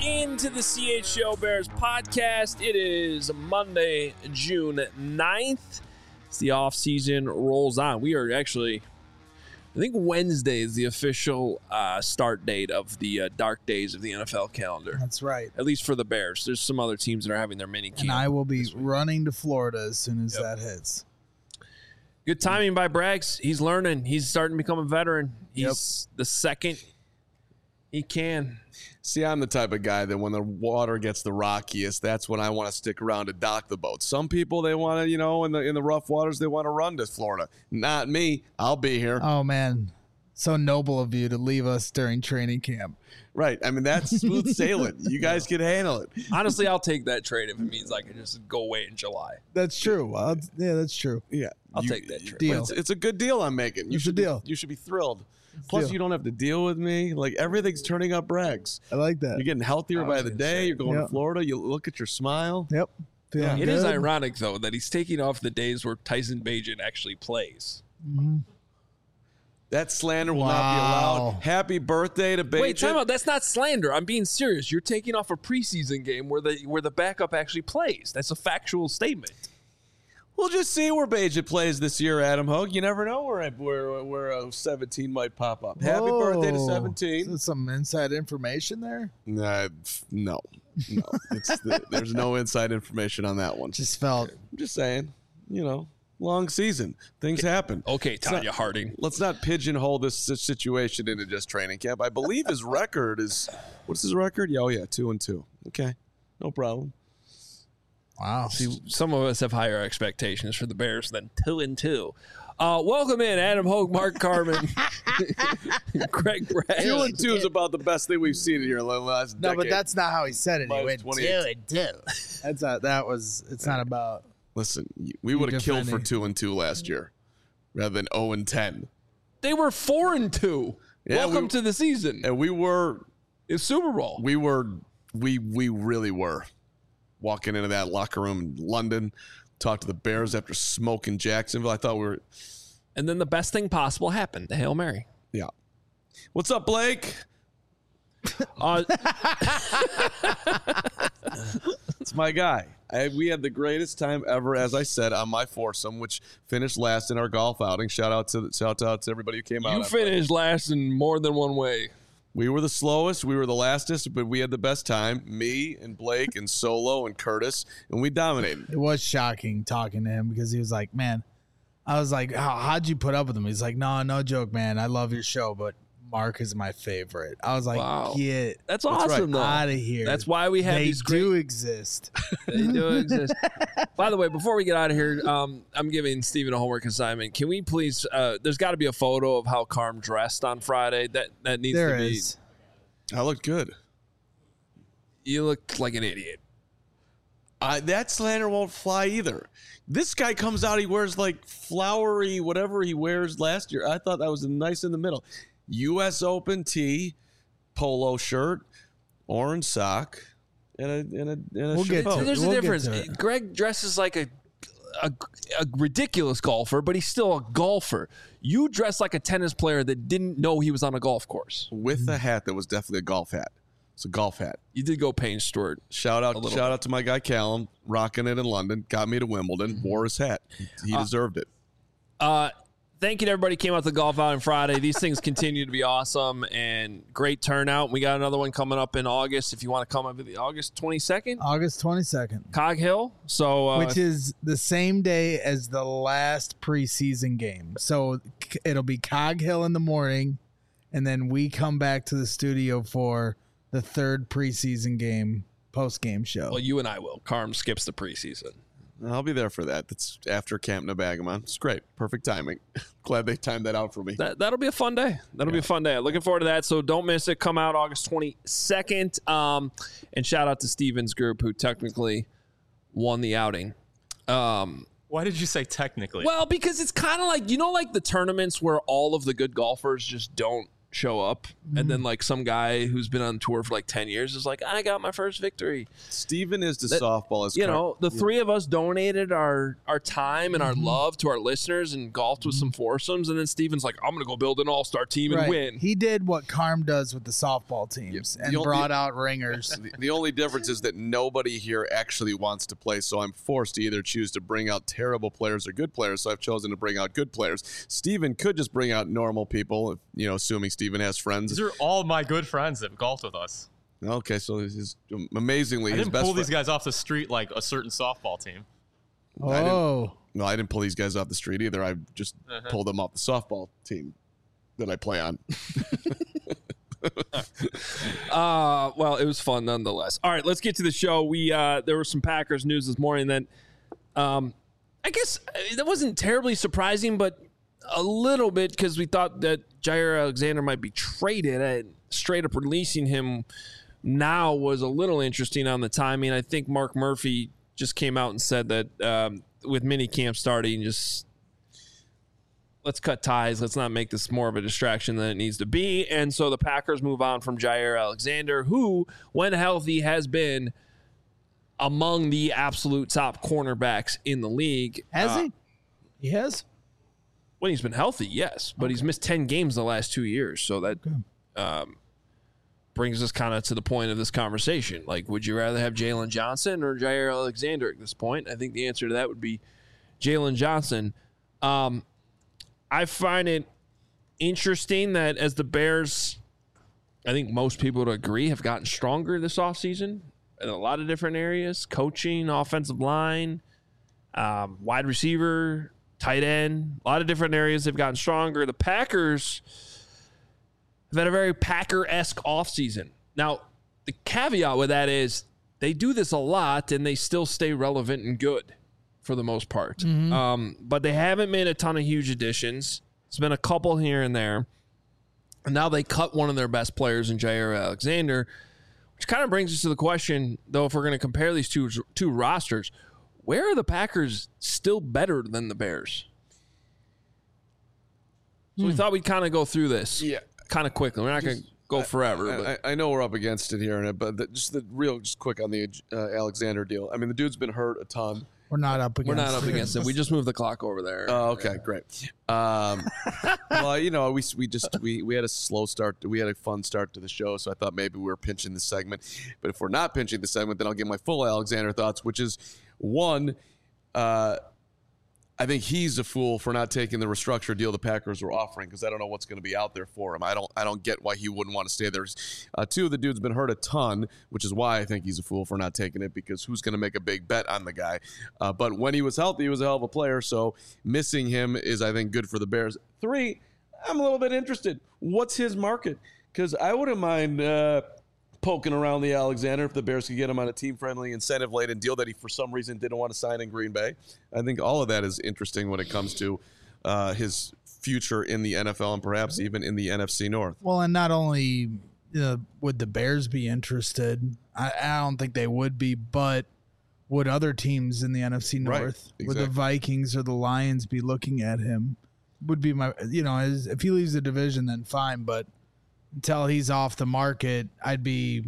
into the CHGO Bears podcast. It is Monday, June 9th. As the offseason rolls on. We are actually, I think Wednesday is the official start date of the dark days of the NFL calendar. That's right. At least for the Bears. There's some other teams that are having their mini camp. And I will be running to Florida as soon as that hits. Good timing by Braggs. He's learning. He's starting to become a veteran. He's the second he can. See, I'm the type of guy that when the water gets the rockiest, that's when I want to stick around to dock the boat. Some people, they want to, in the rough waters, they want to run to Florida. Not me. I'll be here. Oh, man. So noble of you to leave us during training camp. Right. I mean, that's smooth sailing. You guys can handle it. Honestly, I'll take that trade if it means I can just go away in July. That's true. Yeah, that's true. Yeah. I'll take that trade. Deal. It's a good deal I'm making. It's a deal. You should be thrilled. Plus, you don't have to deal with me. Like, everything's turning up, Braggs. I like that. You're getting healthier by the day. You're going to Yep. Florida. You look at your smile. Yep. Feeling It is good. ironic, though, that he's taking off the days where Tyson Bagent actually plays. Mm-hmm. That slander will not be allowed. Happy birthday to Bagent. Wait, time out. That's not slander. I'm being serious. You're taking off a preseason game where the backup actually plays. That's a factual statement. We'll just see where Bagent plays this year, Adam Hogue. You never know where 17 might pop up. Happy birthday to 17. Is some inside information there? No. There's no inside information on that one. Just felt. I'm just saying, long season. Things happen. Okay, Tanya Harding. Let's not pigeonhole this situation into just training camp. I believe his record is, what's his record? Yeah, 2-2. Okay, no problem. Wow. See, some of us have higher expectations for the Bears than 2-2. Welcome in, Adam Hogue, Mark Carman, Greg Bragg. 2-2 is about the best thing we've seen in here in the last decade. No, but that's not how he said it. He Minus went 28. 2-2. That's not. That was. It's not about. Listen, we would have killed for 2-2 last year rather than 0-10. They were 4-2. Yeah, Welcome to the season. And we were. It's Super Bowl. We really were. Walking into that locker room in London, talked to the Bears after smoking Jacksonville. I thought we were. And then the best thing possible happened, the Hail Mary. Yeah. What's up, Blake? It's my guy. We had the greatest time ever, as I said, on my foursome, which finished last in our golf outing. Shout out to everybody who came out. You finished last in more than one way. We were the slowest. We were the lastest, but we had the best time. Me and Blake and Solo and Curtis, and we dominated. It was shocking talking to him because he was like, man, I was like, how'd you put up with him? He's like, no joke, man. I love your show, but Mark is my favorite. I was like, wow. Get That's awesome, though. out of here. That's why we have they these great... do exist. They do exist. By the way, before we get out of here, I'm giving Steven a homework assignment. Can we please, there's got to be a photo of how Carm dressed on Friday. That needs There to be. is. I looked good. You look like an idiot. That slander won't fly either. This guy comes out, he wears like flowery, whatever he wears last year. I thought that was nice in the middle. U.S. Open tee, polo shirt, orange sock, and a We'll get chapeau. to it. There's We'll a get difference. to it. Greg dresses like a ridiculous golfer, but he's still a golfer. You dress like a tennis player that didn't know he was on a golf course. With a hat that was definitely a golf hat. It's a golf hat. You did go Payne Stewart. Shout out to my guy Callum, rocking it in London. Got me to Wimbledon. Wore his hat. He deserved it. Thank you to everybody who came out to the golf outing Friday. These things continue to be awesome and great turnout. We got another one coming up in August. If you want to come up the August 22nd, August 22nd. Cog Hill. So Which is the same day as the last preseason game. So it'll be Cog Hill in the morning, and then we come back to the studio for the third preseason game, post-game show. well, you and I will. Carm skips the preseason. I'll be there for that. That's after Camp Nebagamon. It's great. Perfect timing. Glad they timed that out for me. That'll be a fun day. That'll be a fun day. Looking forward to that. So don't miss it. Come out August 22nd. And shout out to Steven's group who technically won the outing. Why did you say technically? Well, because it's kind of like, like the tournaments where all of the good golfers just don't show up, and then like some guy who's been on tour for like 10 years is like, I got my first victory. Steven is to softball as the three of us donated our time and our love to our listeners and golfed with some foursomes, and then Steven's like, I'm gonna go build an all-star team and win. He did what Carm does with the softball teams and brought out ringers. The only difference is that nobody here actually wants to play, so I'm forced to either choose to bring out terrible players or good players, so I've chosen to bring out good players. Steven could just bring out normal people, assuming Steven has friends. These are all my good friends that golfed with us. Okay, so he's amazingly I his didn't best pull these guys off the street like a certain softball team. Oh. I didn't pull these guys off the street either. I just pulled them off the softball team that I play on. Well, it was fun nonetheless. All right, let's get to the show. There was some Packers news this morning that I guess that wasn't terribly surprising, but a little bit, because we thought that Jair Alexander might be traded, and straight up releasing him now was a little interesting on the timing. I think Mark Murphy just came out and said that with minicamp starting, just let's cut ties. Let's not make this more of a distraction than it needs to be. And so the Packers move on from Jair Alexander, who, when healthy, has been among the absolute top cornerbacks in the league. Has he? He has? When he's been healthy, yes. But he's missed 10 games the last 2 years. So that brings us kind of to the point of this conversation. Like, would you rather have Jalen Johnson or Jair Alexander at this point? I think the answer to that would be Jalen Johnson. I find it interesting that as the Bears, I think most people would agree, have gotten stronger this offseason in a lot of different areas: coaching, offensive line, wide receiver, tight end, a lot of different areas they've gotten stronger. The Packers have had a very Packer-esque offseason. Now, the caveat with that is they do this a lot and they still stay relevant and good for the most part. But they haven't made a ton of huge additions. It's been a couple here and there. And now they cut one of their best players in Jair Alexander, which kind of brings us to the question, though, if we're going to compare these two rosters, where are the Packers still better than the Bears? So we thought we'd kind of go through this kind of quickly. We're not going to go forever. I know we're up against it here, but just quick on the Alexander deal. I mean, the dude's been hurt a ton. We're not up against it. We just moved the clock over there. Oh, okay, great. Well, we had a slow start. We had a fun start to the show, so I thought maybe we were pinching the segment. But if we're not pinching the segment, then I'll give my full Alexander thoughts, which is one. I think he's a fool for not taking the restructured deal the Packers were offering, because I don't know what's going to be out there for him. I don't get why he wouldn't want to stay there. Two, the dude's been hurt a ton, which is why I think he's a fool for not taking it, because who's going to make a big bet on the guy? But when he was healthy, he was a hell of a player, so missing him is, I think, good for the Bears. Three, I'm a little bit interested. What's his market? Because I wouldn't mind poking around the Alexander if the Bears could get him on a team-friendly, incentive-laden deal that he, for some reason, didn't want to sign in Green Bay. I think all of that is interesting when it comes to his future in the NFL and perhaps even in the NFC North. Well, and not only would the Bears be interested, I don't think they would be, but would other teams in the NFC North, right, exactly. Would the Vikings or the Lions be looking at him? Would be my, if he leaves the division, then fine, but until he's off the market, I'd be,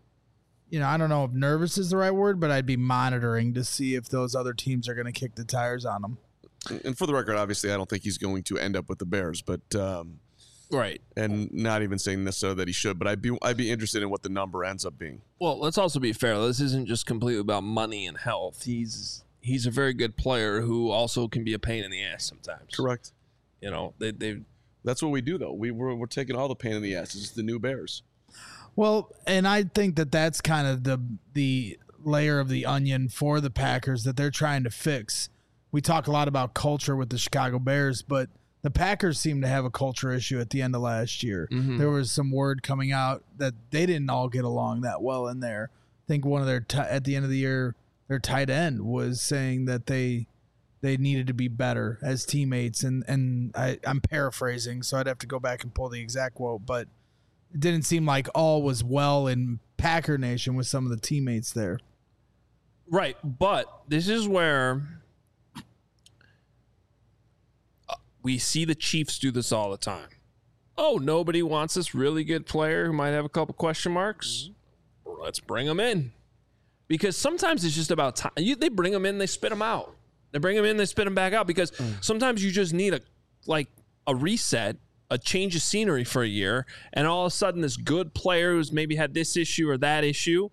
I don't know if nervous is the right word, but I'd be monitoring to see if those other teams are going to kick the tires on him. And for the record, obviously, I don't think he's going to end up with the Bears, but right. And not even saying necessarily that he should, but I'd be interested in what the number ends up being. Well, let's also be fair. This isn't just completely about money and health. He's a very good player who also can be a pain in the ass sometimes. Correct. They That's what we do, though. We're taking all the pain in the ass. It's the new Bears. Well, and I think that's kind of the layer of the onion for the Packers that they're trying to fix. We talk a lot about culture with the Chicago Bears, but the Packers seem to have a culture issue at the end of last year. Mm-hmm. There was some word coming out that they didn't all get along that well in there. I think one of their at the end of the year, their tight end was saying that they needed to be better as teammates, and I'm paraphrasing, so I'd have to go back and pull the exact quote, but it didn't seem like all was well in Packer Nation with some of the teammates there. Right, but this is where we see the Chiefs do this all the time. oh, nobody wants this really good player who might have a couple question marks. Let's bring him in. Because sometimes it's just about time. They bring them in, they spit them out. They bring them in, they spit them back out. Because sometimes you just need a reset, a change of scenery for a year, and all of a sudden this good player who's maybe had this issue or that issue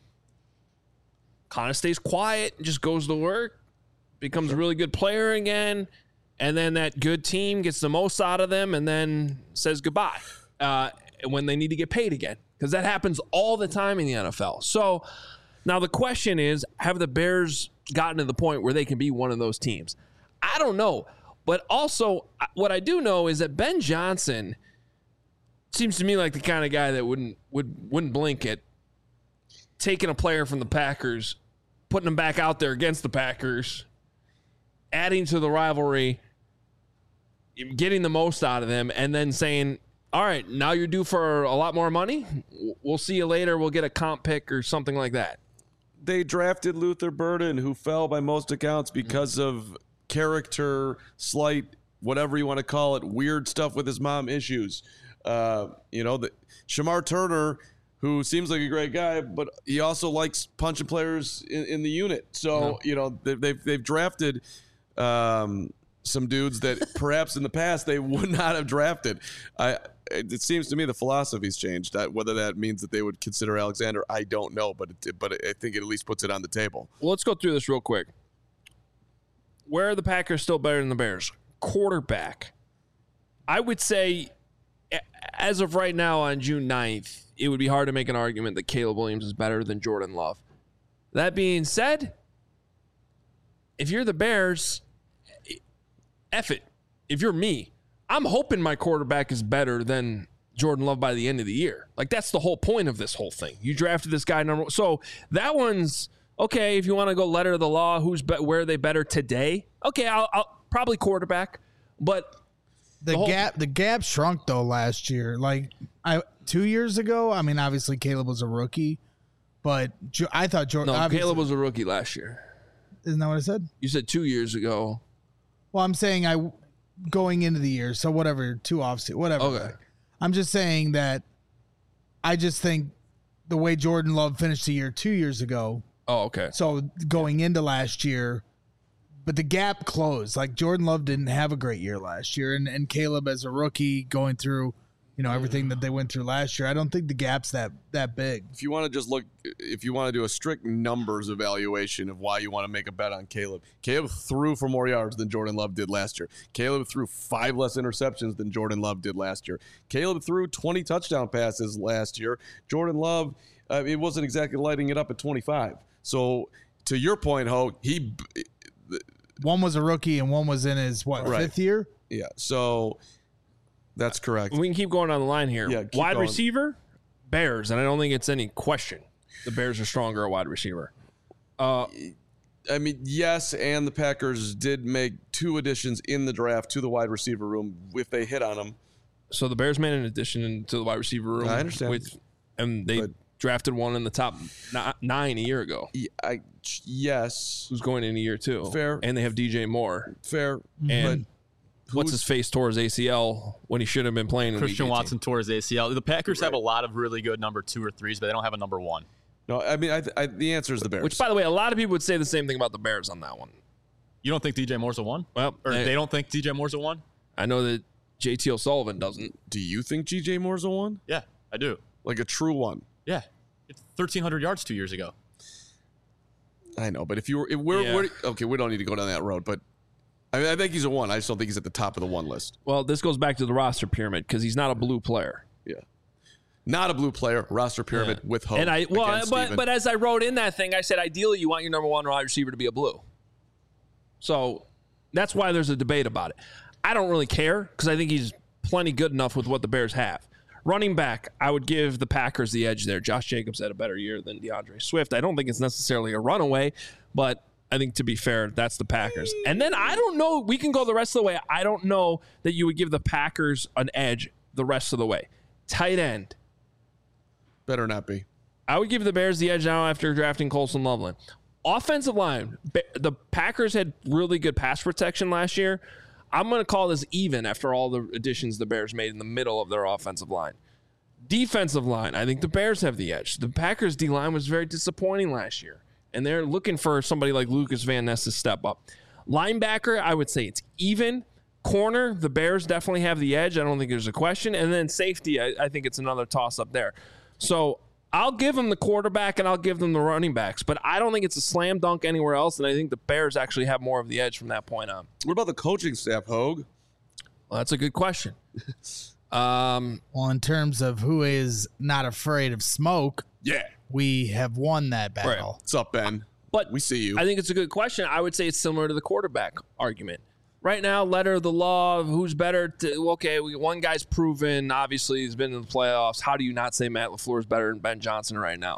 kind of stays quiet and just goes to work, becomes a really good player again, and then that good team gets the most out of them and then says goodbye when they need to get paid again. Because that happens all the time in the NFL. So now the question is, have the Bears gotten to the point where they can be one of those teams? I don't know. But also, what I do know is that Ben Johnson seems to me like the kind of guy that wouldn't blink at taking a player from the Packers, putting him back out there against the Packers, adding to the rivalry, getting the most out of them, and then saying, all right, now you're due for a lot more money. We'll see you later. We'll get a comp pick or something like that. They drafted Luther Burden, who fell by most accounts because of character, slight, whatever you want to call it, weird stuff with his mom issues. Shamar Turner, who seems like a great guy, but he also likes punching players in the unit. So, they've drafted some dudes that perhaps in the past they would not have drafted. It seems to me the philosophy's changed. Whether that means that they would consider Alexander, I don't know, but I think it at least puts it on the table. Well, let's go through this real quick. Where are the Packers still better than the Bears? Quarterback. I would say, as of right now on June 9th, it would be hard to make an argument that Caleb Williams is better than Jordan Love. That being said, if you're the Bears, F it. If you're me, I'm hoping my quarterback is better than Jordan Love by the end of the year. Like, that's the whole point of this whole thing. You drafted this guy number one. So that one's okay. If you want to go letter of the law, where are they better today? Okay, I'll probably quarterback. But the gap shrunk though last year. Like 2 years ago, I mean, obviously Caleb was a rookie, but I thought Jordan. No, Caleb was a rookie last year. Isn't that what I said? You said 2 years ago. Well, I'm saying going into the year, so whatever, 2 offseason, whatever. Okay. I'm just saying that I just think the way Jordan Love finished the year 2 years ago. Oh, okay. So going into last year, but the gap closed. Like Jordan Love didn't have a great year last year, and Caleb as a rookie going through, everything that they went through last year. I don't think the gap's that big. If you want to do a strict numbers evaluation of why you want to make a bet on Caleb threw for more yards than Jordan Love did last year. Caleb threw 5 less interceptions than Jordan Love did last year. Caleb threw 20 touchdown passes last year. Jordan Love, it wasn't exactly lighting it up at 25. So to your point, Ho, one was a rookie and one was in his fifth year? Yeah. So that's correct. We can keep going on the line here. Yeah, wide receiver, Bears, and I don't think it's any question. The Bears are stronger at wide receiver. I mean, yes, and the Packers did make 2 additions in the draft to the wide receiver room if they hit on them. So the Bears made an addition to the wide receiver room. I understand. And they drafted one in the top 9 a year ago. Yes. Who's going in a year too. Fair. And they have DJ Moore. Fair. And what's his face tore his ACL when he should have been playing in Christian Week 18. Watson tore his ACL. The Packers have a lot of really good number 2 or 3s, but they don't have a number 1. No, I mean, the answer is the Bears. Which, by the way, a lot of people would say the same thing about the Bears on that one. You don't think DJ Moore's a 1? Well, or they don't think DJ Moore's a 1? I know that JT O'Sullivan doesn't. Do you think GJ Moore's a 1? Yeah, I do. Like a true 1? Yeah. It's 1,300 yards 2 years ago. I know, but we're okay, we don't need to go down that road, but I mean, I think he's a 1. I just don't think he's at the top of the 1 list. Well, this goes back to the roster pyramid because he's not a blue player. Yeah. Not a blue player, roster pyramid with hope. And but as I wrote in that thing, I said ideally you want your number 1 wide receiver to be a blue. So that's why there's a debate about it. I don't really care because I think he's plenty good enough with what the Bears have. Running back, I would give the Packers the edge there. Josh Jacobs had a better year than DeAndre Swift. I don't think it's necessarily a runaway, but I think to be fair, that's the Packers. And then I don't know. We can go the rest of the way. I don't know that you would give the Packers an edge the rest of the way. Tight end. Better not be. I would give the Bears the edge now after drafting Colson Loveland. Offensive line. The Packers had really good pass protection last year. I'm going to call this even after all the additions the Bears made in the middle of their offensive line. Defensive line, I think the Bears have the edge. The Packers' D-line was very disappointing last year, and they're looking for somebody like Lucas Van Ness to step up. Linebacker, I would say it's even. Corner, the Bears definitely have the edge. I don't think there's a question. And then safety, I think it's another toss-up there. So I'll give them the quarterback and I'll give them the running backs, but I don't think it's a slam dunk anywhere else, and I think the Bears actually have more of the edge from that point on. What about the coaching staff, Hogue? Well, that's a good question. Well, in terms of who is not afraid of smoke, Yeah. we have won that battle. Right. What's up, Ben? But We see you. I think it's a good question. I would say it's similar to the quarterback argument. Right now, letter of the law, who's better? One guy's proven, obviously, he's been in the playoffs. How do you not say Matt LaFleur is better than Ben Johnson right now?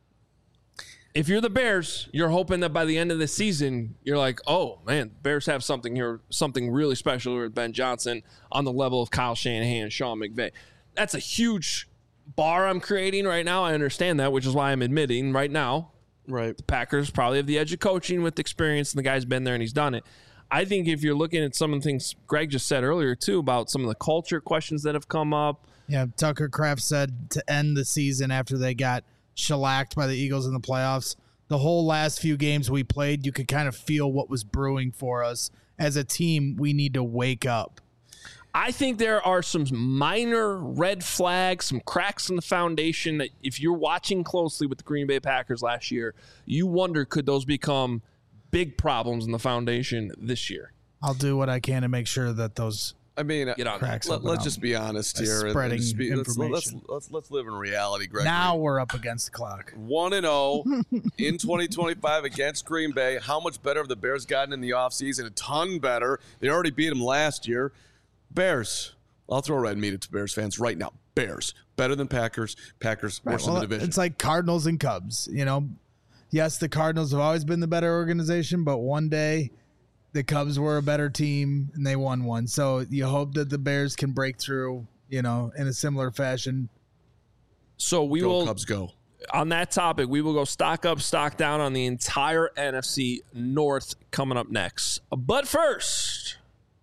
If you're the Bears, you're hoping that by the end of the season, you're like, oh, man, Bears have something here, something really special with Ben Johnson on the level of Kyle Shanahan and Sean McVay. That's a huge bar I'm creating right now. I understand that, which is why I'm admitting right now, Right. the Packers probably have the edge of coaching with experience, and the guy's been there and he's done it. I think if you're looking at some of the things Greg just said earlier, too, about some of the culture questions that have come up. Yeah, Tucker Kraft said to end the season after they got shellacked by the Eagles in the playoffs, the whole last few games we played, you could kind of feel what was brewing for us. As a team, we need to wake up. I think there are some minor red flags, some cracks in the foundation that if you're watching closely with the Green Bay Packers last year, you wonder, could those become big problems in the foundation this year? I'll do what I can to make sure that those I mean, Get on cracks open let's up. just be honest here. and Spreading just be- information. Let's live in reality, Greg. Now we're up against the clock. 1-0 in 2025 against Green Bay. How much better have the Bears gotten in the offseason? A ton better. They already beat them last year. Bears. I'll throw red meat at Bears fans right now. Bears. Better than Packers. Packers worse in the division. It's like Cardinals and Cubs. You know, yes, the Cardinals have always been the better organization, but one day the Cubs were a better team and they won one. So you hope that the Bears can break through, you know, in a similar fashion. So we Go will, Cubs, go. on that topic, we will go stock up, stock down on the entire NFC North coming up next. But first,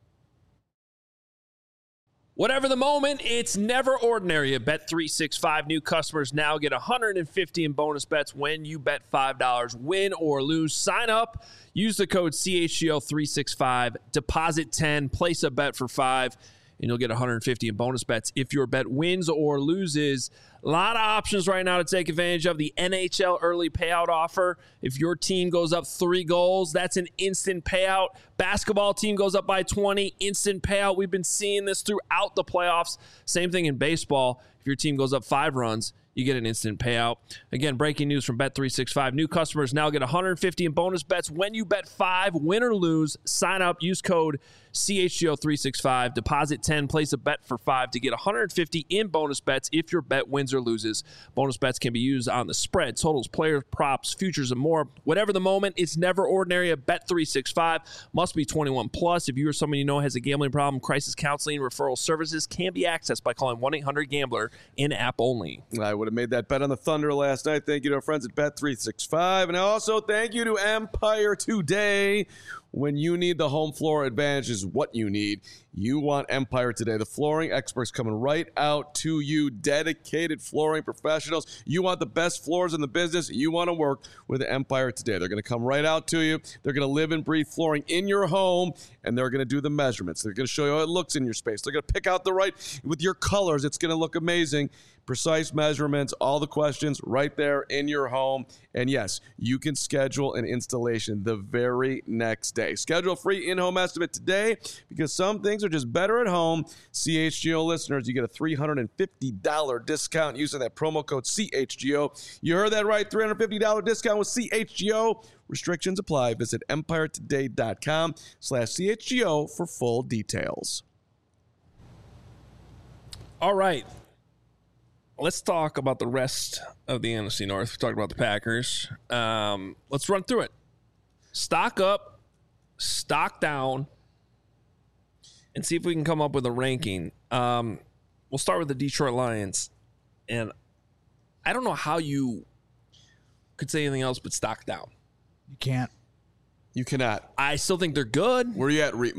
whatever the moment, it's never ordinary at Bet365. New customers now get $150 in bonus bets when you bet $5, win or lose. Sign up, use the code CHGO365, deposit 10, place a bet for 5, and you'll get $150 in bonus bets if your bet wins or loses. A lot of options right now to take advantage of. The NHL early payout offer. If your team goes up 3 goals, that's an instant payout. Basketball team goes up by 20, instant payout. We've been seeing this throughout the playoffs. Same thing in baseball. If your team goes up 5 runs, you get an instant payout. Again, breaking news from Bet365. New customers now get $150 in bonus bets when you bet 5, win or lose. Sign up, use code CHGO365, deposit 10, place a bet for 5 to get $150 in bonus bets if your bet wins or loses. Bonus bets can be used on the spread, totals, players, props, futures, and more. Whatever the moment, it's never ordinary at Bet365. Must be 21 plus. If you or someone you know has a gambling problem, crisis counseling, referral services can be accessed by calling 1-800-GAMBLER in-app only. I would have made that bet on the Thunder last night. Thank you to our friends at Bet365. And also thank you to Empire Today. When you need the home floor advantage is what you need. You want Empire Today. The flooring experts coming right out to you. Dedicated flooring professionals. You want the best floors in the business. You want to work with Empire Today. They're going to come right out to you. They're going to live and breathe flooring in your home, and they're going to do the measurements. They're going to show you how it looks in your space. They're going to pick out the right, with your colors, it's going to look amazing. Precise measurements, all the questions right there in your home. And yes, you can schedule an installation the very next day. Schedule a free in-home estimate today because some things are just better at home. CHGO listeners, you get a $350 discount using that promo code CHGO. You heard that right, $350 discount with CHGO. Restrictions apply. Visit EmpireToday.com/CHGO for full details. All right. Let's talk about the rest of the NFC North. We talked about the Packers. Let's run through it. Stock up, stock down, and see if we can come up with a ranking. We'll start with the Detroit Lions. And I don't know how you could say anything else but stock down. You can't. You cannot. I still think they're good. Where you at, Reetma?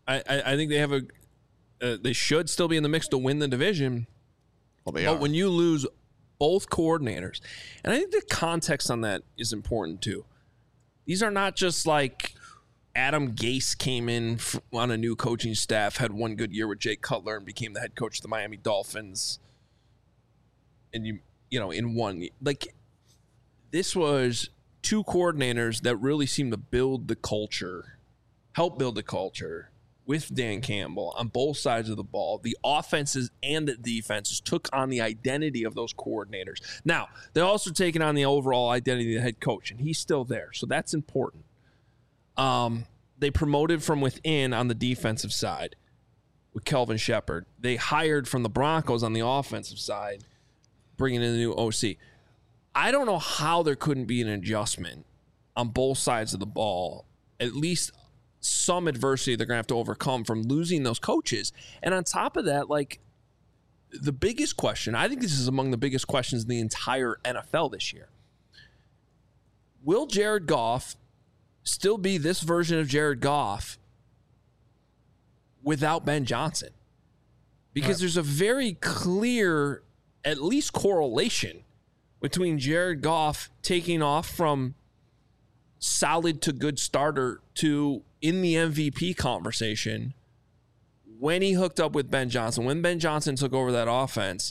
I think they have they should still be in the mix to win the division. Well, they but are. when you lose both coordinators, and I think the context on that is important too. These are not just like Adam Gase came in on a new coaching staff, had one good year with Jay Cutler, and became the head coach of the Miami Dolphins. And you know, in one, like, this was two coordinators that really seemed to build the culture, help build the culture with Dan Campbell on both sides of the ball. The offenses and the defenses took on the identity of those coordinators. Now, they're also taking on the overall identity of the head coach, and he's still there, so that's important. They promoted from within on the defensive side with Kelvin Shepard. They hired from the Broncos on the offensive side, bringing in the new OC. I don't know how there couldn't be an adjustment on both sides of the ball, at least some adversity they're going to have to overcome from losing those coaches. And on top of that, like, the biggest question, I think this is among the biggest questions in the entire NFL this year. Will Jared Goff still be this version of Jared Goff without Ben Johnson? Because there's a very clear, at least, correlation between Jared Goff taking off from solid to good starter to in the MVP conversation when he hooked up with Ben Johnson, when Ben Johnson took over that offense.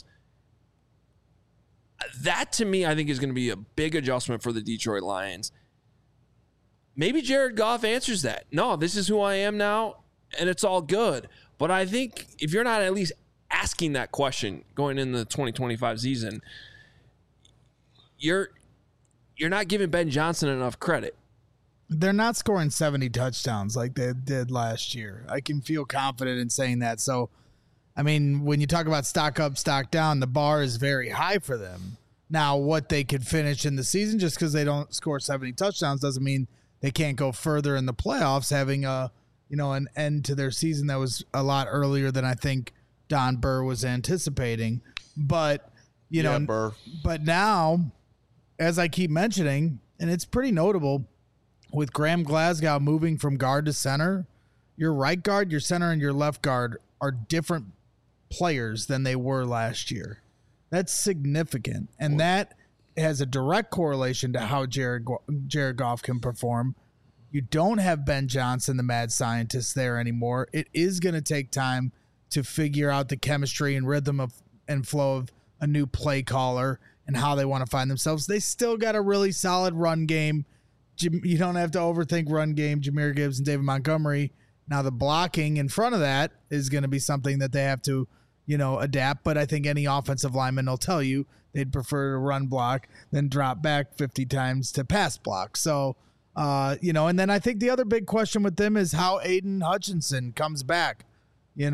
That, to me, I think is going to be a big adjustment for the Detroit Lions. Maybe Jared Goff answers that. No, this is who I am now, and it's all good. But I think if you're not at least asking that question going into the 2025 season, you're not giving Ben Johnson enough credit. They're not scoring 70 touchdowns like they did last year. I can feel confident in saying that. So, I mean, when you talk about stock up, stock down, the bar is very high for them. Now, what they could finish in the season, just because they don't score 70 touchdowns doesn't mean they can't go further in the playoffs, having an end to their season that was a lot earlier than I think Don Burr was anticipating. But, Burr. But now, as I keep mentioning, and it's pretty notable, with Graham Glasgow moving from guard to center, your right guard, your center, and your left guard are different players than they were last year. That's significant. And that has a direct correlation to how Jared Goff can perform. You don't have Ben Johnson, the mad scientist, there anymore. It is going to take time to figure out the chemistry and rhythm of and flow of a new play caller and how they want to find themselves. They still got a really solid run game. You don't have to overthink run game, Jahmyr Gibbs and David Montgomery. Now the blocking in front of that is going to be something that they have to, adapt. But I think any offensive lineman will tell you they'd prefer to run block than drop back 50 times to pass block. So, and then I think the other big question with them is how Aiden Hutchinson comes back, and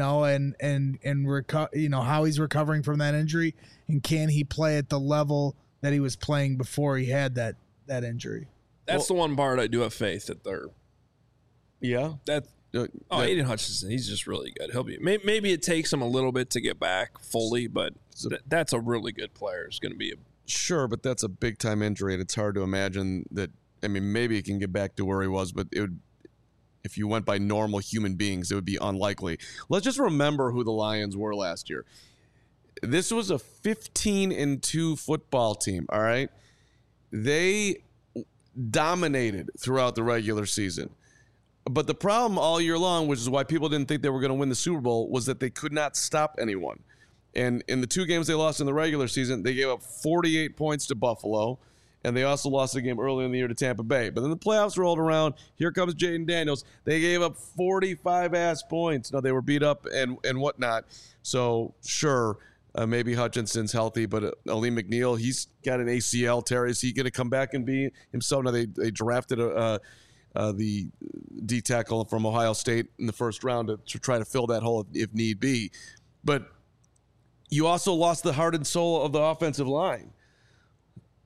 how he's recovering from that injury, and can he play at the level that he was playing before he had that injury. That's the one part I do have faith that they're. Yeah. Aiden Hutchinson, he's just really good. He'll be. Maybe it takes him a little bit to get back fully, but that's a really good player. It's going to be a. Sure, but that's a big time injury, and it's hard to imagine that. I mean, maybe he can get back to where he was, but it would. If you went by normal human beings, it would be unlikely. Let's just remember who the Lions were last year. This was a 15-2 football team. All right, they dominated throughout the regular season. But the problem all year long, which is why people didn't think they were going to win the Super Bowl, was that they could not stop anyone. And in the two games they lost in the regular season, they gave up 48 points to Buffalo, and they also lost a game early in the year to Tampa Bay. But then the playoffs rolled around. Here comes Jaden Daniels. They gave up 45-ass points. Now, they were beat up and whatnot. So, sure, maybe Hutchinson's healthy, but Aleem McNeil, he's got an ACL tear. Is he going to come back and be himself? Now, they drafted the D tackle from Ohio State in the first round to try to fill that hole if need be. But you also lost the heart and soul of the offensive line.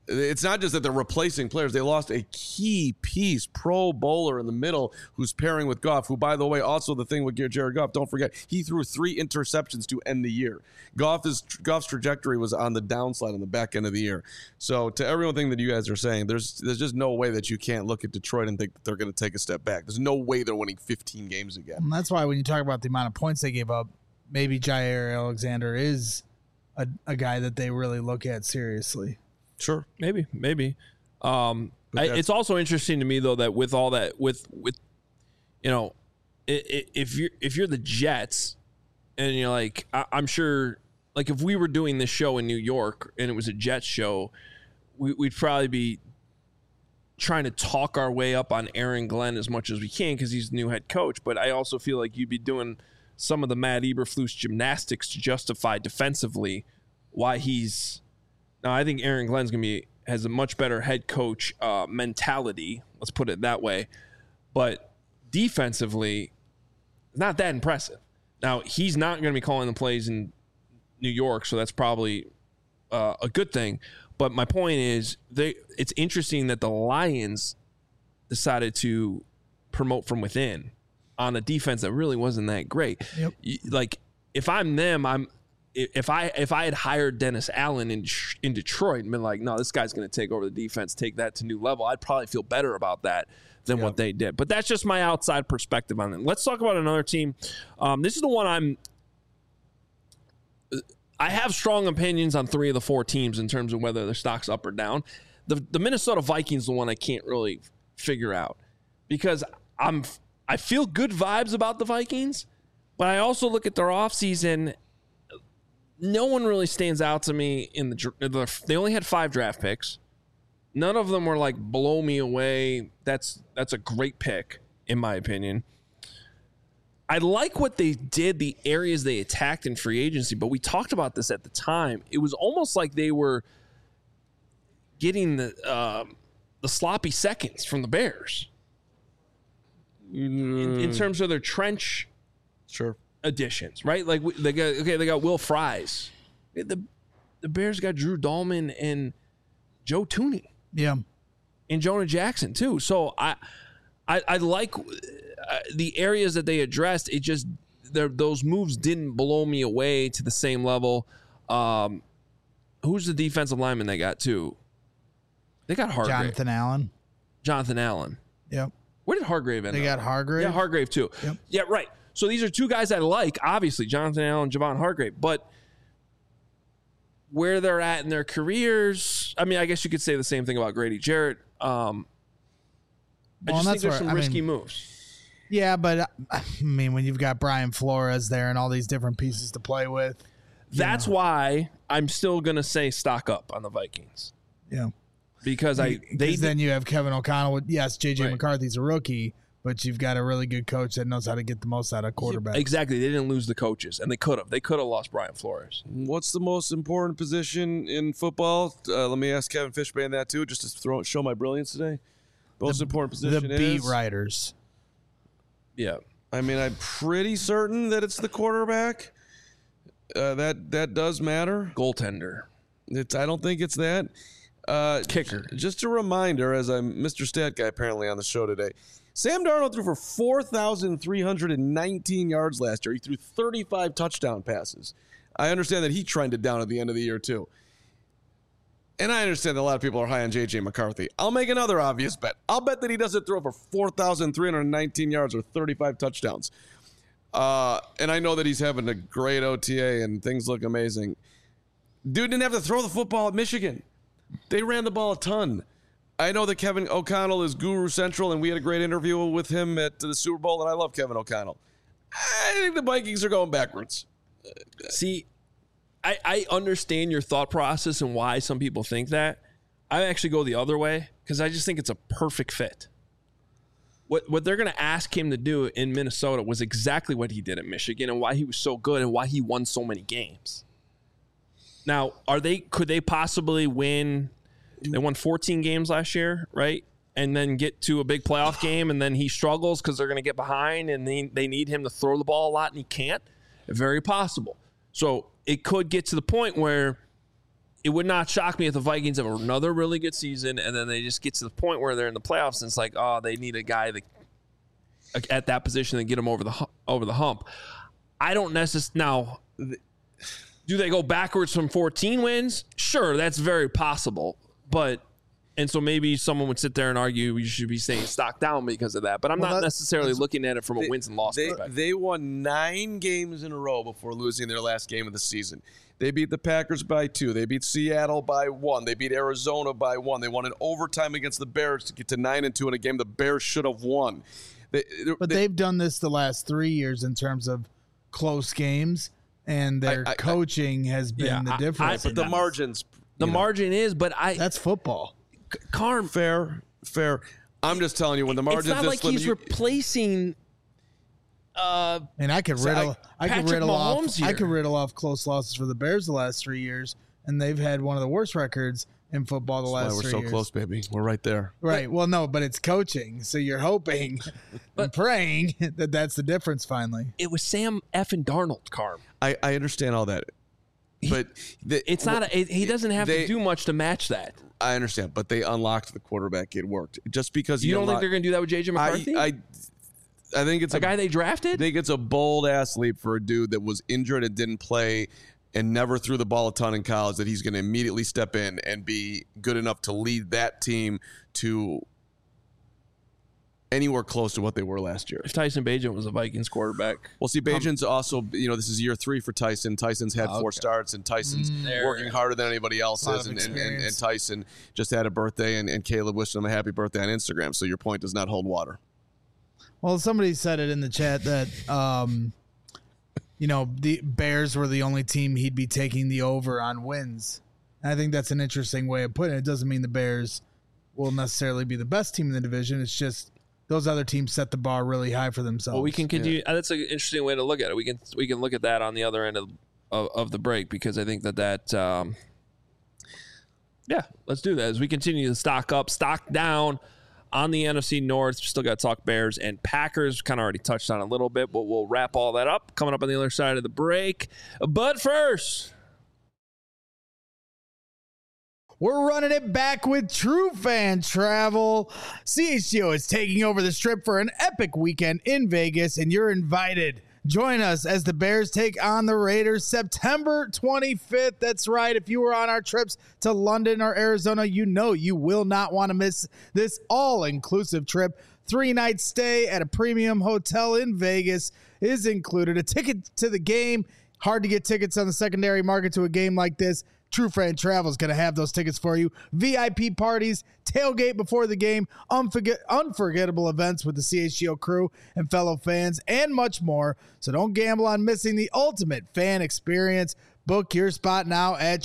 It's not just that they're replacing players. They lost a key piece, Pro Bowler in the middle, who's pairing with Goff, who, by the way, also the thing with Jared Goff, don't forget, he threw 3 interceptions to end the year. Goff's trajectory was on the downslide on the back end of the year. So to everything that you guys are saying, there's just no way that you can't look at Detroit and think that they're going to take a step back. There's no way they're winning 15 games again. And that's why when you talk about the amount of points they gave up, maybe Jair Alexander is a guy that they really look at seriously. Sure. Maybe. It's also interesting to me though that with all that, with you know, if you're the Jets, and you're like, I'm sure, like if we were doing this show in New York and it was a Jets show, we'd probably be trying to talk our way up on Aaron Glenn as much as we can because he's the new head coach. But I also feel like you'd be doing some of the Matt Eberflus gymnastics to justify defensively why he's. Now, I think Aaron Glenn's has a much better head coach mentality. Let's put it that way. But defensively, not that impressive. Now, he's not going to be calling the plays in New York, so that's probably a good thing. But my point is, it's interesting that the Lions decided to promote from within on a defense that really wasn't that great. Yep. Like, if I'm them, If I had hired Dennis Allen in Detroit and been like, no, this guy's going to take over the defense, take that to new level, I'd probably feel better about that than what they did. But that's just my outside perspective on it. Let's talk about another team. This is the one I have strong opinions on 3 of the 4 teams in terms of whether their stock's up or down. The Minnesota Vikings is the one I can't really figure out because I feel good vibes about the Vikings, but I also look at their offseason. No one really stands out to me they only had 5 draft picks. None of them were like blow me away. That's a great pick in my opinion. I like what they did, the areas they attacked in free agency, but we talked about this at the time. It was almost like they were getting the sloppy seconds from the Bears in terms of their trench. Sure. Additions, right? Like they got Will Fries. The Bears got Drew Dahlman and Joe Thuney. Yeah, and Jonah Jackson too. So I like the areas that they addressed. It just those moves didn't blow me away to the same level. Who's the defensive lineman they got too? They got Hargrave. Jonathan Allen. Yep. Where did Hargrave end up? They got Hargrave. Yeah, Hargrave too. Yep. Yeah, right. So these are 2 guys I like, obviously, Jonathan Allen, Javon Hargrave. But where they're at in their careers, I mean, I guess you could say the same thing about Grady Jarrett. I just think there's some risky moves. Yeah, but I mean, when you've got Brian Flores there and all these different pieces to play with. That's why I'm still going to say stock up on the Vikings. Yeah. Because then you have Kevin O'Connell. Yes, J.J. Right. McCarthy's a rookie. But you've got a really good coach that knows how to get the most out of quarterbacks. Exactly. They didn't lose the coaches, and they could have. They could have lost Brian Flores. What's the most important position in football? Let me ask Kevin Fishbane that too, just to show my brilliance today. Most important position the beat writers. Yeah. I mean, I'm pretty certain that it's the quarterback. That does matter. Goaltender. I don't think it's that. Kicker. Just a reminder, as I'm Mr. Stat Guy apparently on the show today, Sam Darnold threw for 4,319 yards last year. He threw 35 touchdown passes. I understand that he trended down at the end of the year too. And I understand that a lot of people are high on J.J. McCarthy. I'll make another obvious bet. I'll bet that he doesn't throw for 4,319 yards or 35 touchdowns. And I know that he's having a great OTA and things look amazing. Dude didn't have to throw the football at Michigan. They ran the ball a ton. I know that Kevin O'Connell is Guru Central, and we had a great interview with him at the Super Bowl, and I love Kevin O'Connell. I think the Vikings are going backwards. See, I understand your thought process and why some people think that. I actually go the other way because I just think it's a perfect fit. What they're going to ask him to do in Minnesota was exactly what he did at Michigan and why he was so good and why he won so many games. Now, could they possibly win? They won 14 games last year, right? And then get to a big playoff game, and then he struggles because they're going to get behind, and they need him to throw the ball a lot, and he can't. Very possible. So it could get to the point where it would not shock me if the Vikings have another really good season and then they just get to the point where they're in the playoffs and it's like, oh, they need a guy at that position and get them over the hump. I don't necessarily now. Do they go backwards from 14 wins? Sure, that's very possible. And so maybe someone would sit there and argue you should be saying stock down because of that. But I'm not necessarily looking at it from a wins and losses perspective. They won 9 games in a row before losing their last game of the season. They beat the Packers by 2. They beat Seattle by 1. They beat Arizona by 1. They won in overtime against the Bears to get to 9-2 in a game the Bears should have won. They've done this the last 3 years in terms of close games, and their coaching has been the difference. But the margins. Margin is, but that's football. Carm. Fair. I'm just telling you, when the margins. It's not like he's replacing. And I could riddle off close losses for the Bears the last 3 years, and they've had one of the worst records in football the last 3 years. We're so close, baby. We're right there. Right. Well, no, but it's coaching, so you're hoping and praying that that's the difference. Finally, it was Sam effing Darnold, Carm. I understand all that, but it's not. He doesn't have to do much to match that. I understand, but they unlocked the quarterback. It worked. Just because you don't think they're going to do that with J.J. McCarthy? I think it's a guy they drafted. I think it's a bold ass leap for a dude that was injured and didn't play and never threw the ball a ton in college that he's going to immediately step in and be good enough to lead that team to anywhere close to what they were last year. If Tyson Bagent was a Vikings quarterback. Well, see, Bagent's also, this is year 3 for Tyson. Tyson's had 4 starts, and Tyson's working harder than anybody else is. And Tyson just had a birthday, and Caleb wished him a happy birthday on Instagram. So your point does not hold water. Well, somebody said it in the chat that, the Bears were the only team he'd be taking the over on wins. And I think that's an interesting way of putting it. It doesn't mean the Bears will necessarily be the best team in the division. It's just those other teams set the bar really high for themselves. Well, we can continue. Yeah. That's an interesting way to look at it. We can look at that on the other end of the break, because I think that let's do that as we continue to stock up, stock down on the NFC North. Still got to talk Bears and Packers. Kind of already touched on a little bit, but we'll wrap all that up coming up on the other side of the break. But first, we're running it back with True Fan Travel. CHGO is taking over the Strip for an epic weekend in Vegas, and you're invited. Join us as the Bears take on the Raiders September 25th. That's right. If you were on our trips to London or Arizona, you will not want to miss this all-inclusive trip. 3-night stay at a premium hotel in Vegas is included. A ticket to the game. Hard to get tickets on the secondary market to a game like this. True Fan Travel is going to have those tickets for you. VIP parties, tailgate before the game, unforgettable events with the CHGO crew and fellow fans, and much more. So don't gamble on missing the ultimate fan experience. Book your spot now at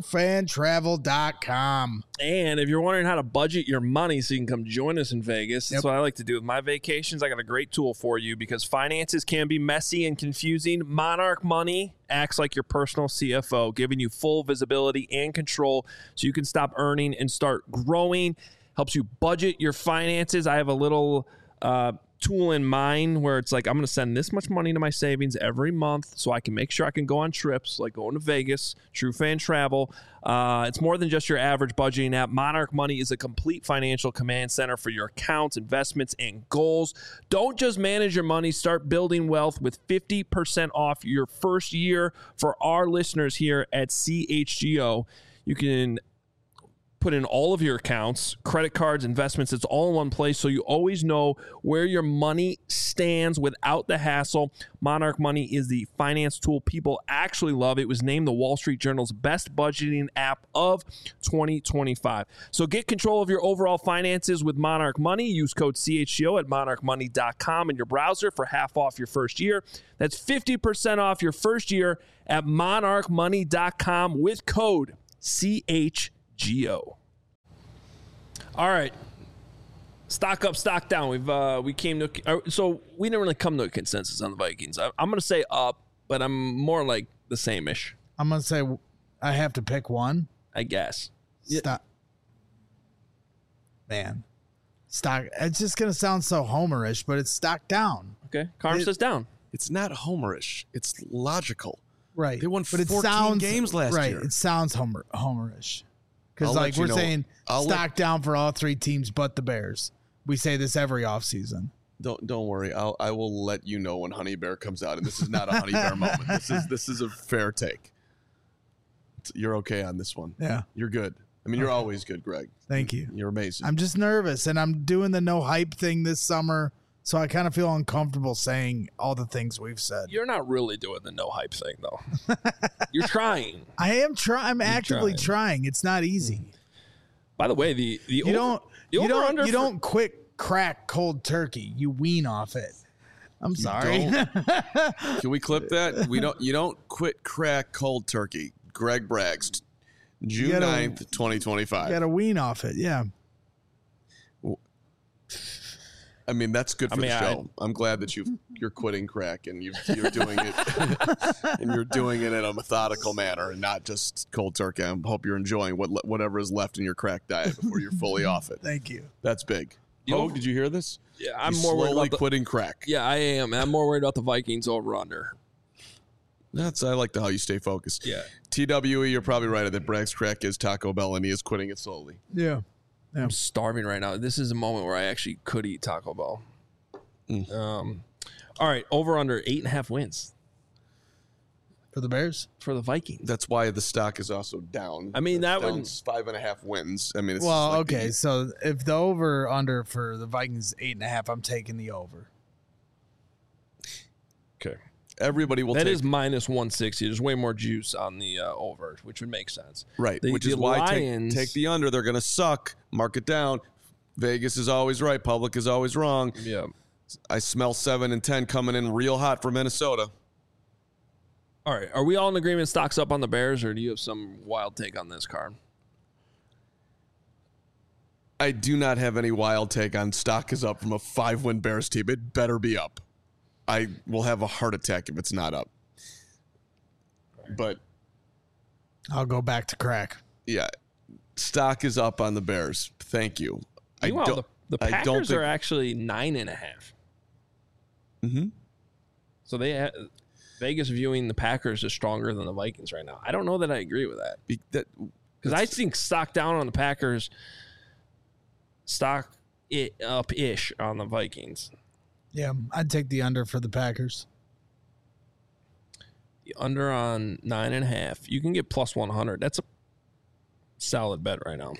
truefantravel.com. And if you're wondering how to budget your money so you can come join us in Vegas, that's what I like to do with my vacations. I got a great tool for you, because finances can be messy and confusing. Monarch Money acts like your personal CFO, giving you full visibility and control so you can stop earning and start growing. Helps you budget your finances. I have a little tool in mind where it's like, I'm going to send this much money to my savings every month so I can make sure I can go on trips like going to Vegas. True Fan Travel. It's more than just your average budgeting app. Monarch Money is a complete financial command center for your accounts, investments, and goals. Don't just manage your money. Start building wealth with 50% off your first year for our listeners here at CHGO. You can put in all of your accounts, credit cards, investments. It's all in one place, so you always know where your money stands without the hassle. Monarch Money is the finance tool people actually love. It was named the Wall Street Journal's best budgeting app of 2025. So get control of your overall finances with Monarch Money. Use code CHGO at monarchmoney.com in your browser for half off your first year. That's 50% off your first year at monarchmoney.com with code CHGO. All right, stock up, stock down. We didn't really come to a consensus on the Vikings. I'm going to say up, but I'm more like the same-ish. I'm going to say I have to pick one. I guess. Stock. Man, stock. It's just going to sound so homerish, but it's stock down. Okay, Carm says down. It's not homerish. It's logical. Right. They won but it 14 sounds, games last right, year. It sounds homerish. Because, I'll like, let you we're know. saying I'll stock down for all three teams but the Bears. We say this every offseason. Don't worry. I will let you know when Honey Bear comes out, and this is not a Honey Bear moment. This is a fair take. You're okay on this one. Yeah. You're good. I mean, you're always good, Greg. Thank you. You're amazing. I'm just nervous, and I'm doing the no hype thing this summer, so I kind of feel uncomfortable saying all the things we've said. You're not really doing the no hype thing, though. You're trying. I am trying. I'm actively trying. It's not easy. By the way, you don't quick crack cold turkey. You wean off it. I'm sorry. Can we clip that? You don't quit crack cold turkey. Greg brags. June 9th, 2025. You got to wean off it. Yeah. I mean, that's good for the show. I'm glad that you're quitting crack and you're doing it and you're doing it in a methodical manner and not just cold turkey. I hope you're enjoying whatever is left in your crack diet before you're fully off it. Thank you. That's big. Hogue, did you hear this? Yeah, I'm He's more worried slowly about quitting crack. Yeah, I am. I'm more worried about the Vikings over under. I like how you stay focused. Yeah. TWE, you're probably right that Bragg's crack is Taco Bell and he is quitting it slowly. Yeah. I'm starving right now. This is a moment where I actually could eat Taco Bell. All right, over under 8.5 wins For the Bears? for the Vikings. That's why the stock is also down. I mean, that down would 5.5 wins. I mean, it's Well, like okay. So if the over under for the Vikings is 8.5, I'm taking the over. okay. Everybody will That take is minus 160. There's way more juice on the over, which would make sense. right, The- which is the why Lions- take the under. They're going to suck. Mark it down. Vegas is always right. Public is always wrong. Yeah. I smell 7 and 10 coming in real hot for Minnesota. All right. Are we all in agreement? Stocks up on the Bears, or do you have some wild take on this card? I do not have any wild take on stock is up from a 5-win Bears team. It better be up. I will have a heart attack if it's not up. But I'll go back to crack. yeah, stock is up on the Bears. Thank you. Meanwhile, the I don't Packers think- are actually 9.5. Mm-hmm. So Vegas viewing the Packers as stronger than the Vikings right now. I don't know that I agree with that because I think stock down on the Packers, stock up ish on the Vikings. Yeah, I'd take the under for the Packers. The under on 9.5. You can get plus 100. That's a solid bet right now.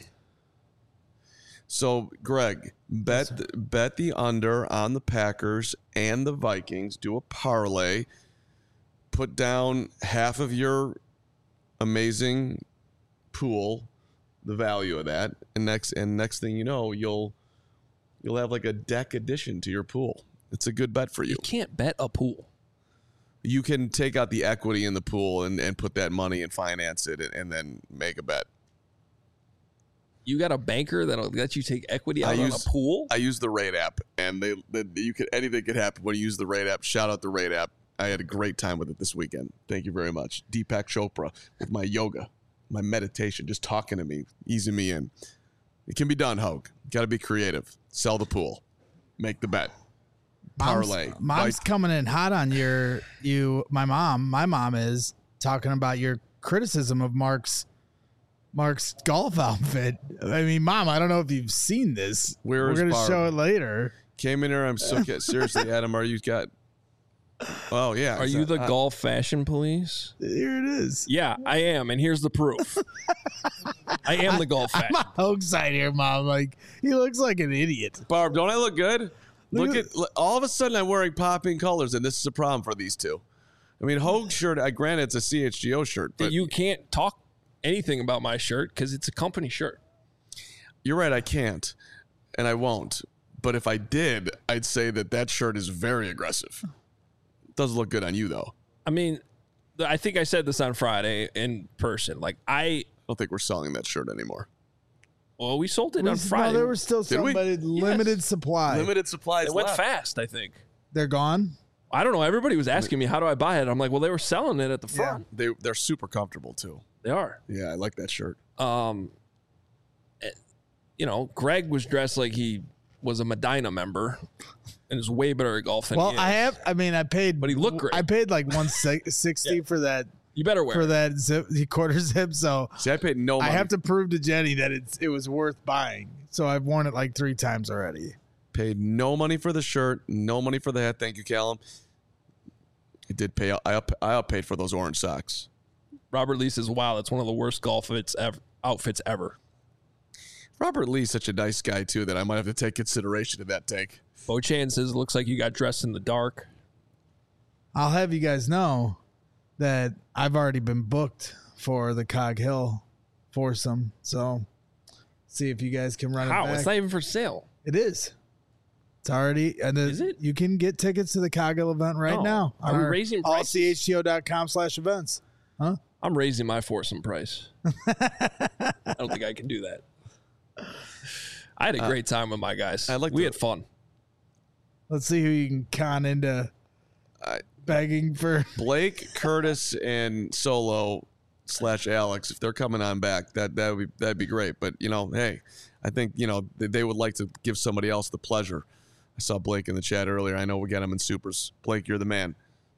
So, Greg, bet the under on the Packers and the Vikings. Do a parlay. Put down half of your amazing pool, the value of that, and next thing you know, you'll have like a deck addition to your pool. It's a good bet for you. You can't bet a pool. You can take out the equity in the pool and put that money and finance it and then make a bet. You got a banker that'll let you take equity out on a pool? I use the Rate app, and anything could happen when you use the Rate app. Shout out the Rate app. I had a great time with it this weekend. Thank you very much. Deepak Chopra with my yoga, my meditation, just talking to me, easing me in. It can be done, Hogue. Got to be creative. Sell the pool. Make the bet. Parlay. Mom's coming in hot on my mom is talking about your criticism of Mark's golf outfit. I mean, Mom, I don't know if you've seen this. We're going to show it later. Came in here. I'm so seriously, Adam. Are you got? Oh yeah. Are you the golf fashion police? Here it is. Yeah, I am, and here's the proof. I am the golf fashion. I'm on Hogue's side here, Mom. Like, he looks like an idiot. Barb, don't I look good? Look at all of a sudden I'm wearing popping colors, and this is a problem for these two. I mean, Hogue's shirt. Granted, it's a CHGO shirt, but You can't talk anything about my shirt because it's a company shirt. You're right. I can't, and I won't. But if I did, I'd say that shirt is very aggressive. Doesn't look good on you, though. I mean, I think I said this on Friday in person. Like, I don't think we're selling that shirt anymore. Well, we sold it on Friday. No, there were still some, but limited supply. Limited supplies. It went fast, I think. They're gone? I don't know. Everybody was asking me, how do I buy it? I'm like, well, they were selling it at the front. Yeah. They're super comfortable, too. They are. Yeah, I like that shirt. Greg was dressed like he was a Medina member and is way better at golf than he is. I paid. But he looked great. I paid like $160 for that You better wear for it. that zip, the quarter zip. So See, I paid no money. I have to prove to Jenny that it was worth buying. So I've worn it like 3 times already. Paid no money for the shirt, no money for the hat. Thank you, Callum. It did pay. I outpaid for those orange socks. Robert Lee says, wow, that's one of the worst golf outfits ever. Robert Lee's such a nice guy, too, that I might have to take consideration of that take. Bo Chan says, looks like you got dressed in the dark. I'll have you guys know that I've already been booked for the Cog Hill foursome. So see if you guys can run How? it back. It's not even for sale. It is. It's already. And Is it? You can get tickets to the Cog Hill event right Oh. now. Are we raising prices? allchto.com/events. Huh? I'm raising my foursome price. I don't think I can do that. I had a great time with my guys. We had fun. Let's see who you can con into begging for. Blake, Curtis, and Solo / Alex, if they're coming on back, that'd be great. But hey, I think they would like to give somebody else the pleasure. I saw Blake in the chat earlier. I know we got him in supers. Blake, you're the man.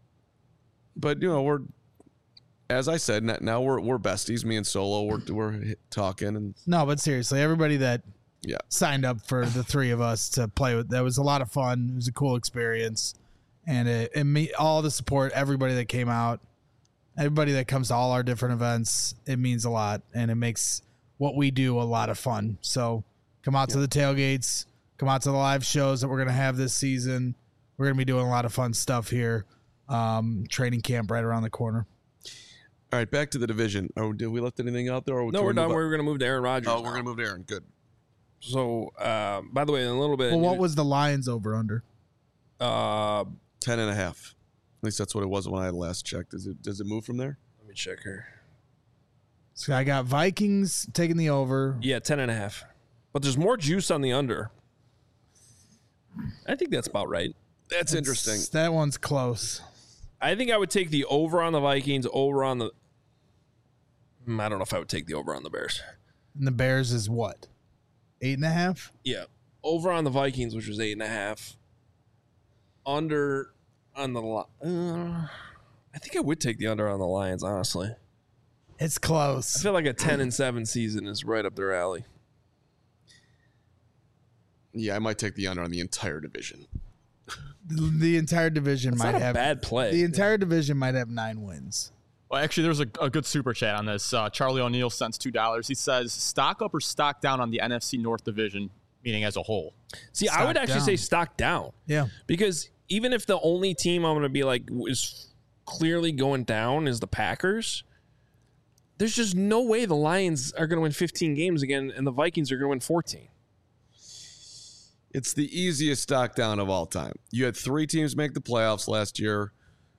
But we're, as I said, now we're besties. Me and Solo, we're talking and No, but seriously, everybody that signed up for the 3 of us to play with, that was a lot of fun. It was a cool experience, and all the support, everybody that came out, everybody that comes to all our different events, it means a lot, and it makes what we do a lot of fun. So come out to the tailgates, come out to the live shows that we're going to have this season. We're going to be doing a lot of fun stuff here. Training camp right around the corner. all right, back to the division. Oh, did we left anything out there? Or No, we're done. We're going to move to Aaron Rodgers. Oh, we're going to move to Aaron. Good. So, by the way, in a little bit. Well, what was the Lions over under? 10.5. At least that's what it was when I last checked. Does it move from there? Let me check here. So I got Vikings taking the over. Yeah, 10.5. But there's more juice on the under. I think that's about right. That's interesting. That one's close. I think I would take the over on the Vikings, over on the... I don't know if I would take the over on the Bears. And the Bears is what? 8.5? Yeah. Over on the Vikings, which was 8.5. Under on the... I think I would take the under on the Lions, honestly. It's I close. feel like a 10-7 season is right up their alley. Yeah, I might take the under on the entire division. The entire division It's might not a have bad play. The entire division might have 9 wins. Well, actually, there's a good super chat on this. Charlie O'Neill sends $2. He says, stock up or stock down on the NFC North division, meaning as a whole. See, I would Stock actually down. say stock down. Yeah. Because even if the only team I'm going to be like is clearly going down is the Packers, there's just no way the Lions are going to win 15 games again and the Vikings are going to win 14. It's the easiest stock down of all time. You had 3 teams make the playoffs last year.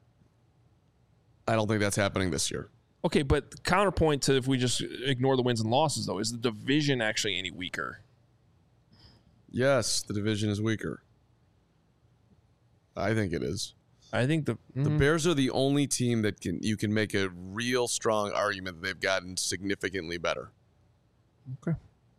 I don't think that's happening this year. Okay, but counterpoint to if we just ignore the wins and losses, though, is the division actually any weaker? Yes, the division is weaker. I think it is. I think the Bears are the only team that you can make a real strong argument that they've gotten significantly better. Okay.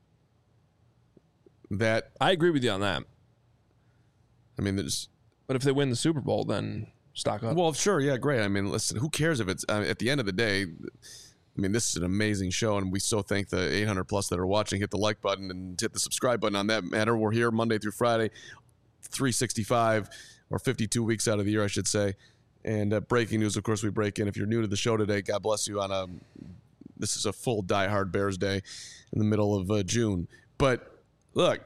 That I agree with you on that. I mean, there's But if they win the Super Bowl, then stock up. well, sure, yeah, great. I mean, listen, who cares if it's at the end of the day? I mean, this is an amazing show, and we so thank the 800 plus that are watching. Hit the like button and hit the subscribe button on that matter. We're here Monday through Friday, 365 or 52 weeks out of the year, I should say. And breaking news, of course, we break in. If you're new to the show today, God bless you. This is a full diehard Bears day in the middle of June. But look,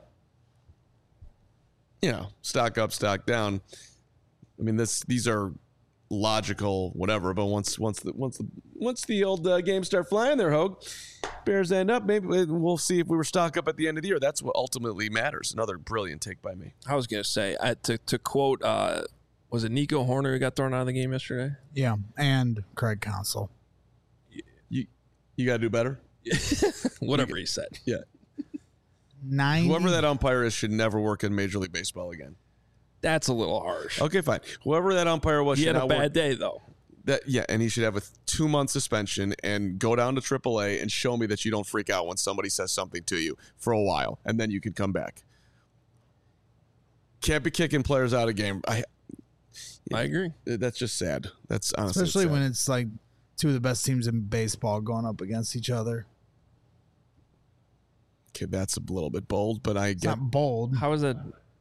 stock up, stock down. I mean, these are logical, whatever. But once the old games start flying, there, Hogue, Bears end up. Maybe we'll see if we were stock up at the end of the year. That's what ultimately matters. Another brilliant take by me. I was going to say, to quote, was it Nico Horner who got thrown out of the game yesterday? Yeah. And Craig Counsell. You got to do better. Whatever he said. Yeah. 90. Whoever that umpire is should never work in Major League Baseball again. That's a little harsh. Okay, fine. Whoever that umpire was, He should had a not bad work. day, though. And he should have a 2-month suspension and go down to AAA and show me that you don't freak out when somebody says something to you for a while, and then you can come back. Can't be kicking players out of game. I agree. That's just sad. That's honestly Especially sad. when it's like two of the best teams in baseball going up against each other. Okay, that's a little bit bold, but I It's get. not bold. How is that?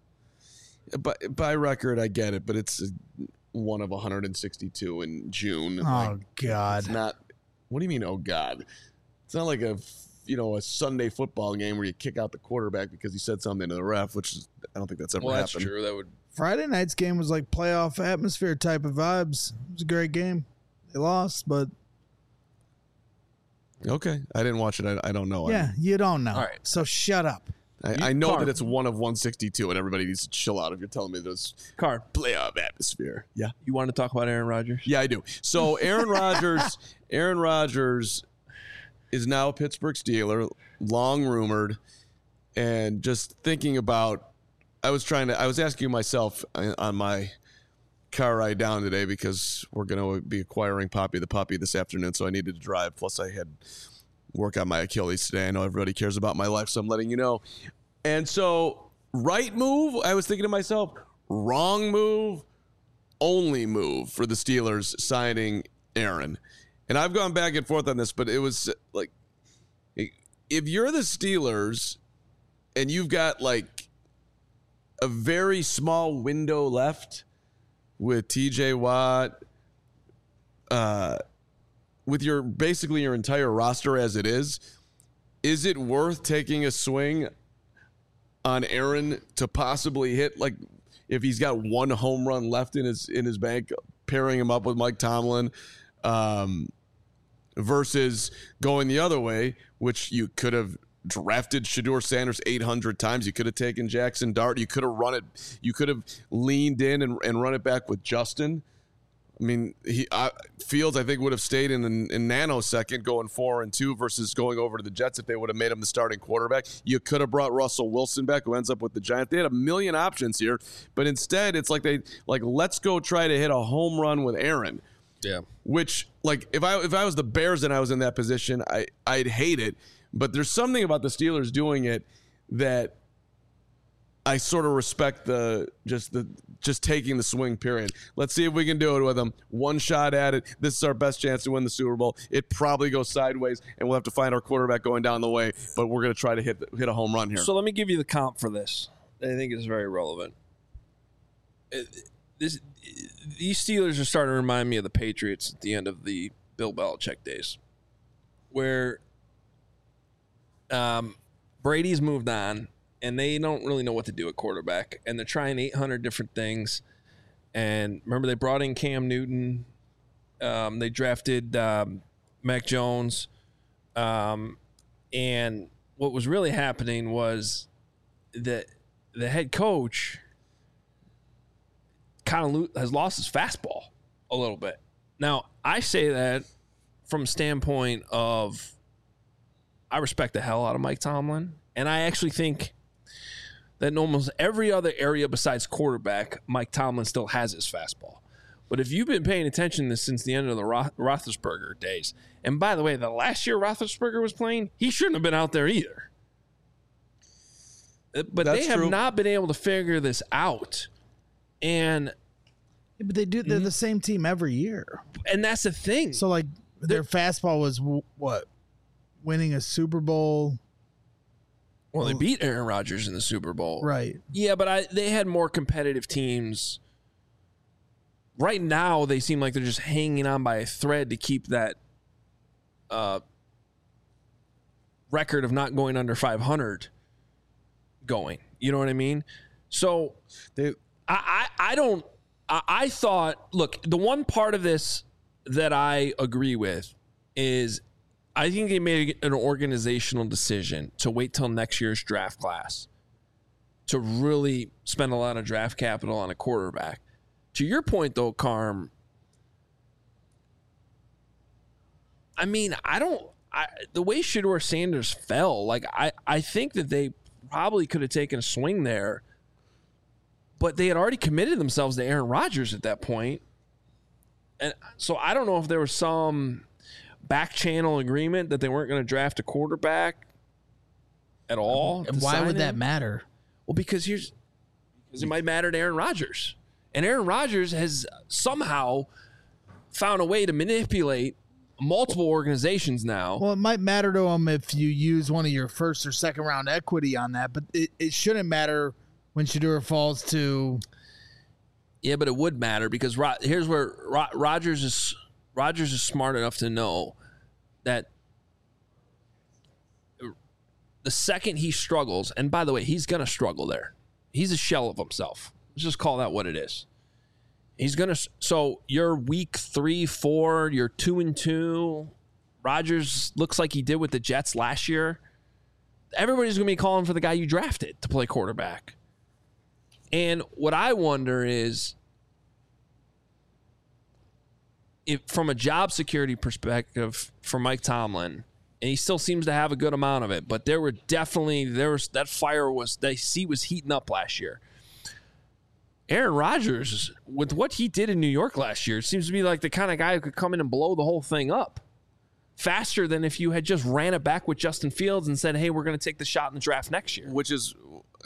By record, I get it, but it's one of 162 in June. Oh God! It's not. What do you mean? Oh God! It's not like a Sunday football game where you kick out the quarterback because he said something to the ref, which is, I don't think that's ever happened. That's true. That would. Friday night's game was like playoff atmosphere type of vibes. It was a great game. They lost, but Okay, I didn't watch it. I don't know. yeah, you don't know. All right. So shut up. I know Carm. that it's one of 162, and everybody needs to chill out if you're telling me there's Carm, playoff atmosphere. Yeah. you want to talk about Aaron Rodgers? Yeah, I do. So Aaron Rodgers is now a Pittsburgh Steeler, long rumored, and just thinking about. I was asking myself on my car ride down today because we're going to be acquiring Poppy the puppy this afternoon, so I needed to drive. Plus, I had work on my Achilles today. I know everybody cares about my life, so I'm letting you know. And so, right move. I was thinking to myself, wrong move. Only move for the Steelers signing Aaron. And I've gone back and forth on this, but it was like, if you're the Steelers and you've got like a very small window left with TJ Watt, with basically your entire roster as it is it worth taking a swing on Aaron to possibly hit, like, if he's got one home run left in his bank, pairing him up with Mike Tomlin, versus going the other way, which you could have drafted Shedeur Sanders 800 times. You could have taken Jackson Dart. You could have run it. You could have leaned in and run it back with Justin. I mean, Fields, I think, would have stayed in nanosecond going 4-2 versus going over to the Jets if they would have made him the starting quarterback. You could have brought Russell Wilson back, who ends up with the Giants. They had a million options here, but instead, it's like let's go try to hit a home run with Aaron. Yeah. Which, like, if I was the Bears and I was in that position, I'd hate it. But there's something about the Steelers doing it that I sort of respect just taking the swing, period. Let's see if we can do it with them. One shot at it. This is our best chance to win the Super Bowl. It probably goes sideways, and we'll have to find our quarterback going down the way, but we're going to try to hit a home run here. So let me give you the comp for this. I think it's very relevant. These Steelers are starting to remind me of the Patriots at the end of the Bill Belichick days, where Brady's moved on, and they don't really know what to do at quarterback, and they're trying 800 different things. And remember, they brought in Cam Newton. They drafted Mac Jones. And what was really happening was that the head coach kind of has lost his fastball a little bit. Now, I say that from a standpoint of I respect the hell out of Mike Tomlin, and I actually think that in almost every other area besides quarterback, Mike Tomlin still has his fastball. But if you've been paying attention to this since the end of the Roethlisberger days, and by the way, the last year Roethlisberger was playing, he shouldn't have been out there either. But That's they have true. not been able to figure this out. And But they're the same team every year. that's the thing. So like their fastball was what? Winning a Super Bowl. Well, they beat Aaron Rodgers in the Super Bowl. Right. Yeah, but they had more competitive teams. Right now, they seem like they're just hanging on by a thread to keep that record of not going under 500 going. You know what I mean? So I thought, look, the one part of this that I agree with is I think they made an organizational decision to wait till next year's draft class to really spend a lot of draft capital on a quarterback. To your point, though, Carm, I mean, the way Shedeur Sanders fell, like I think that they probably could have taken a swing there, but they had already committed themselves to Aaron Rodgers at that point. And so I don't know if there was some back channel agreement that they weren't going to draft a quarterback at all. And why would that matter? Well, because it might matter to Aaron Rodgers. And Aaron Rodgers has somehow found a way to manipulate multiple organizations now. Well, it might matter to him if you use one of your first or second round equity on that, but it shouldn't matter when Shedeur falls to. Yeah, but it would matter because here's where Rodgers is smart enough to know that the second he struggles, and by the way, he's going to struggle there. He's a shell of himself. Let's just call that what it is. He's going to. So you're week 3, 4, you're 2-2. Rodgers looks like he did with the Jets last year. Everybody's going to be calling for the guy you drafted to play quarterback. And what I wonder is, if from a job security perspective for Mike Tomlin, and he still seems to have a good amount of it, but there was that fire was heating up last year. Aaron Rodgers, with what he did in New York last year, seems to be like the kind of guy who could come in and blow the whole thing up faster than if you had just ran it back with Justin Fields and said, hey, we're going to take the shot in the draft next year. Which is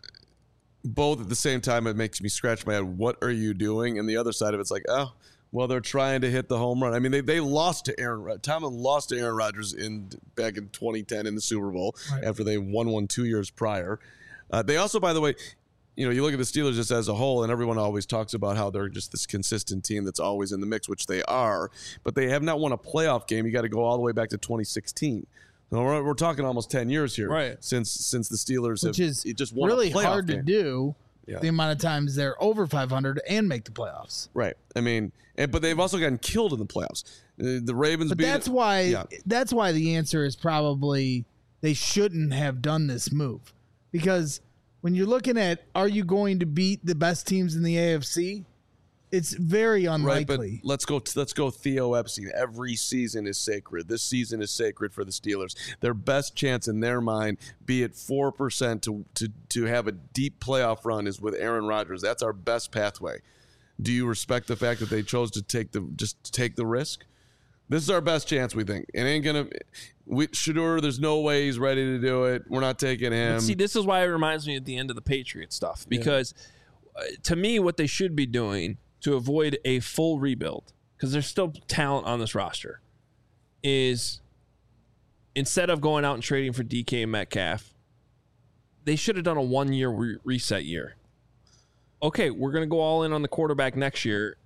both at the same time, it makes me scratch my head. What are you doing? And the other side of it's like, oh, well, they're trying to hit the home run. I mean, they lost to Tomlin lost to Aaron Rodgers back in 2010 in the Super Bowl after they won one 2 years prior. They also, by the way, you look at the Steelers just as a whole, and everyone always talks about how they're just this consistent team that's always in the mix, which they are, but they have not won a playoff game. You got to go all the way back to 2016. So we're talking almost 10 years here, right? Since the Steelers Which is just won really a playoff hard game. To do. Yeah. The amount of times they're over 500 and make the playoffs, right? I mean, but they've also gotten killed in the playoffs. The Ravens, but that's why the answer is probably they shouldn't have done this move, because when you're looking at, are you going to beat the best teams in the AFC? It's very unlikely. Right, but let's go Theo Epstein. Every season is sacred. This season is sacred for the Steelers. Their best chance in their mind, be it 4% to have a deep playoff run, is with Aaron Rodgers. That's our best pathway. Do you respect the fact that they chose to take the risk? This is our best chance, we think. It ain't gonna. Shedeur, there's no way he's ready to do it. We're not taking him. But see, this is why it reminds me at the end of the Patriot stuff, because to me, what they should be doing to avoid a full rebuild, because there's still talent on this roster, is instead of going out and trading for DK Metcalf, they should have done a 1-year reset year. Okay, we're going to go all in on the quarterback next year,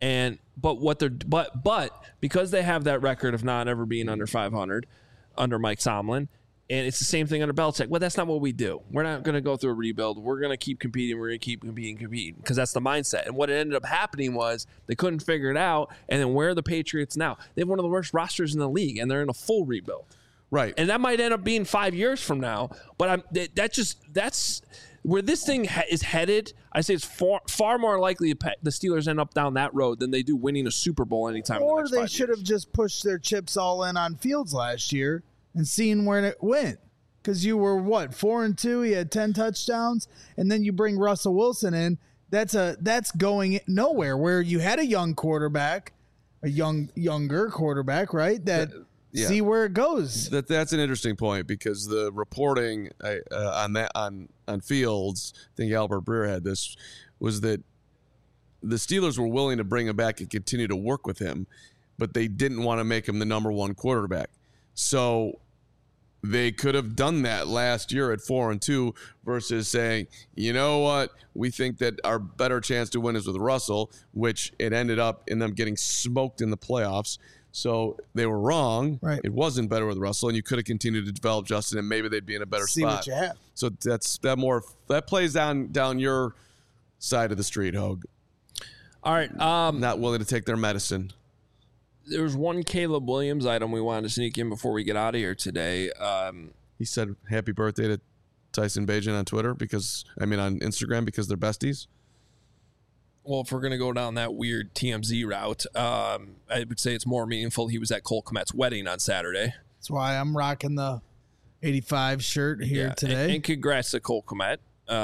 but because they have that record of not ever being under 500 under Mike Tomlin, and it's the same thing under Belichick. Well, that's not what we do. We're not going to go through a rebuild. We're going to keep competing. We're going to keep competing, because that's the mindset. And what ended up happening was they couldn't figure it out. And then where are the Patriots now? They have one of the worst rosters in the league, and they're in a full rebuild. Right. And that might end up being 5 years from now. But that's where this thing is headed. I say it's far more likely the Steelers end up down that road than they do winning a Super Bowl anytime. Or in the next they 5 should years. have just pushed their chips all in on Fields last year and seen where it went. Because you were 4-2, he had 10 touchdowns, and then you bring Russell Wilson in. That's going nowhere. Where you had a young quarterback, younger quarterback, right? See where it goes. That's an interesting point, because the reporting on Fields, I think Albert Breer had this, was that the Steelers were willing to bring him back and continue to work with him, but they didn't want to make him the number one quarterback. So they could have done that last year at 4-2 versus saying, you know what, we think that our better chance to win is with Russell, which it ended up in them getting smoked in the playoffs. So they were wrong. Right. It wasn't better with Russell, and you could have continued to develop Justin, and maybe they'd be in a better See spot. what you have. So that plays down your side of the street, Hogue. All right. Not willing to take their medicine. There was one Caleb Williams item we wanted to sneak in before we get out of here today. He said happy birthday to Tyson Bagent on Instagram, because they're besties. Well, if we're going to go down that weird TMZ route, I would say it's more meaningful he was at Cole Kmet's wedding on Saturday. That's why I'm rocking the 85 shirt here today. And congrats to Cole Kmet,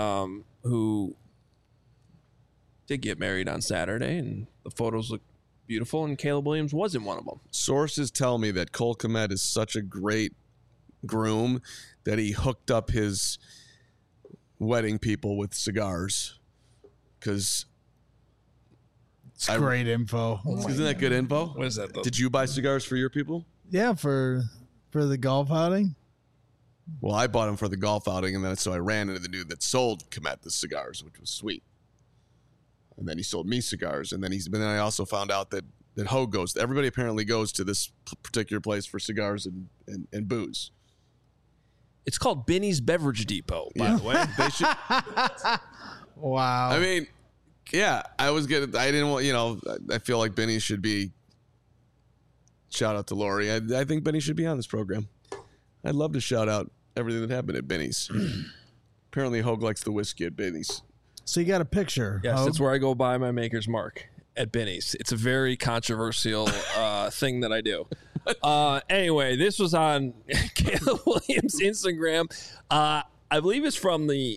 who did get married on Saturday, and the photos look beautiful, and Caleb Williams wasn't one of them. Sources tell me that Cole Kmet is such a great groom that he hooked up his wedding people with cigars, because It's great info. Isn't that good info? What is that? Did you buy cigars for your people? Yeah, for the golf outing. Well, I bought them for the golf outing, and then so I ran into the dude that sold Komet the cigars, which was sweet. And then he sold me cigars, and then I also found out that Hogue goes. Everybody apparently goes to this particular place for cigars and booze. It's called Benny's Beverage Depot, by the way. They should. Wow. I mean, yeah, I didn't want. I feel like Benny should be. Shout out to Lori. I think Benny should be on this program. I'd love to shout out everything that happened at Benny's. Apparently, Hogue likes the whiskey at Benny's. So you got a picture. Yes, Hogue? that's where I go buy my Maker's Mark, at Benny's. It's a very controversial thing that I do. Anyway, this was on Caleb Williams' Instagram. I believe it's from the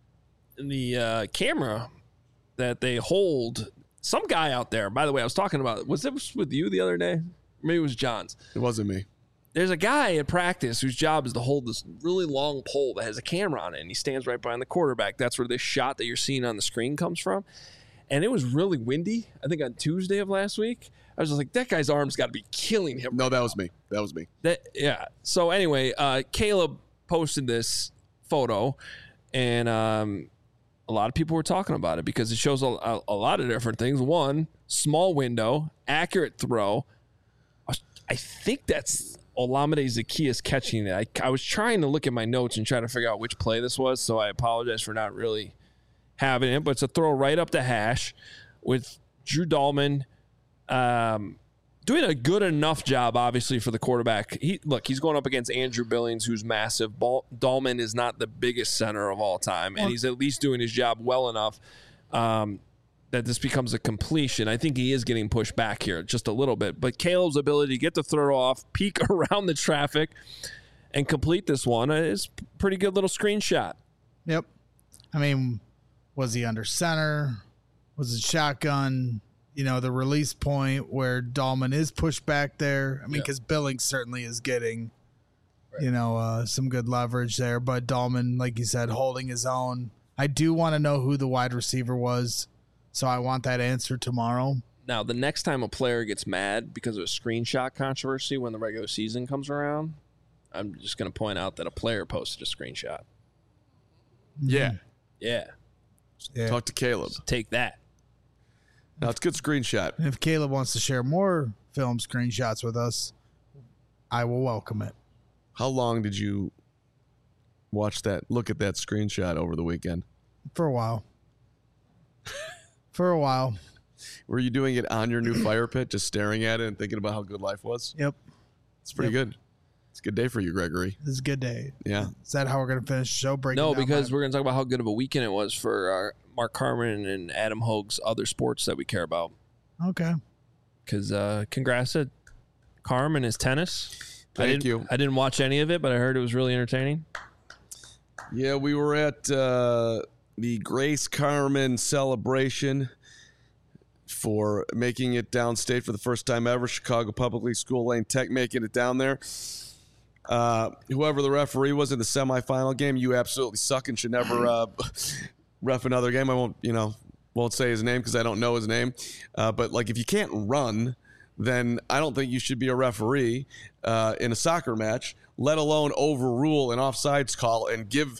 camera that they hold. Some guy out there, by the way, I was talking about, was it with you the other day? Maybe it was John's. It wasn't me. There's a guy at practice whose job is to hold this really long pole that has a camera on it, and he stands right behind the quarterback. That's where this shot that you're seeing on the screen comes from. And it was really windy, I think on Tuesday of last week. I was just like, that guy's arm's got to be killing him. No, that was me. Yeah. So anyway, Caleb posted this photo, and a lot of people were talking about it because it shows a lot of different things. One, small window, accurate throw. I think that's Olamide Zaccheaus catching it. I was trying to look at my notes and try to figure out which play this was, so I apologize for not really having it. But it's a throw right up the hash with Drew Dahlman doing a good enough job, obviously, for the quarterback. He's going up against Andrew Billings, who's massive. Dahlman is not the biggest center of all time, and he's at least doing his job well enough that this becomes a completion. I think he is getting pushed back here just a little bit. But Caleb's ability to get the throw off, peek around the traffic, and complete this one is a pretty good little screenshot. Yep. I mean, was he under center? Was it shotgun? The release point where Dahlman is pushed back there. I mean, because Billings certainly is getting, some good leverage there. But Dahlman, like you said, holding his own. I do want to know who the wide receiver was, so I want that answer tomorrow. Now, the next time a player gets mad because of a screenshot controversy when the regular season comes around, I'm just going to point out that a player posted a screenshot. Yeah. Yeah. Talk to Caleb. So take that. No, it's a good screenshot. And if Caleb wants to share more film screenshots with us, I will welcome it. How long did you look at that screenshot over the weekend? For a while. Were you doing it on your new fire pit, just staring at it and thinking about how good life was? Yep. It's pretty good. It's a good day for you, Gregory. This is a good day. Yeah. Is that how we're going to finish the show? No, because we're going to talk about how good of a weekend it was for Mark Carman and Adam Hogue's other sports that we care about. Okay. Because congrats to Carm and his tennis. Thank you. I didn't watch any of it, but I heard it was really entertaining. Yeah, we were at the Grace Carman celebration for making it downstate for the first time ever. Chicago Public School Lane Tech making it down there. Whoever the referee was in the semifinal game, you absolutely suck and should never ref another game. I won't say his name because I don't know his name. But like, if you can't run, then I don't think you should be a referee in a soccer match, let alone overrule an offsides call and give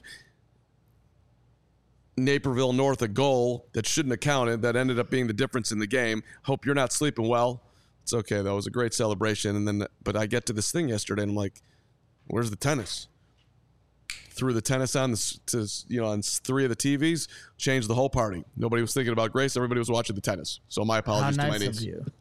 Naperville North a goal that shouldn't have counted, that ended up being the difference in the game. Hope you're not sleeping well. It's okay, though. It was a great celebration. But I get to this thing yesterday, and I'm like, where's the tennis? Threw the tennis on on 3 of the TVs, changed the whole party. Nobody was thinking about Grace. Everybody was watching the tennis. So my apologies to my niece.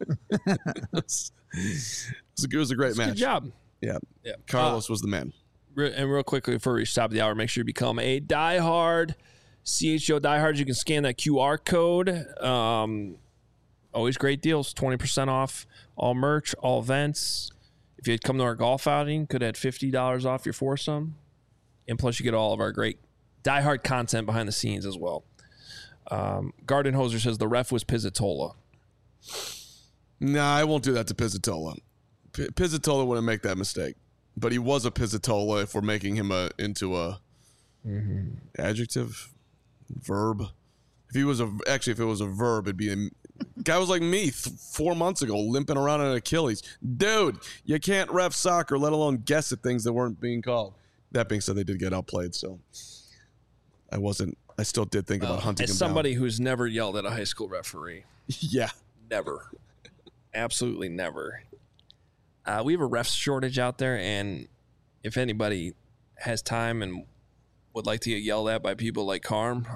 It was a great match. Good job. Yeah. Carlos was the man. And real quickly before we reach the top of the hour, make sure you become a diehard. CHO diehard. You can scan that QR code. Always great deals. 20% off all merch, all events. If you had come to our golf outing, could have had $50 off your foursome. And plus, you get all of our great diehard content behind the scenes as well. Garden Hoser says the ref was Pizzatola. Nah, I won't do that to Pizzatola. Pizzatola wouldn't make that mistake. But he was a Pizzatola if we're making him into a adjective, verb. If it was a verb, it'd be Guy was like me 4 months ago, limping around on an Achilles. Dude, you can't ref soccer, let alone guess at things that weren't being called. That being said, they did get outplayed, so I still did think about hunting as him somebody who's never yelled at a high school referee. Yeah. Never. Absolutely never. We have a ref shortage out there, and if anybody has time and would like to get yelled at by people like Carm,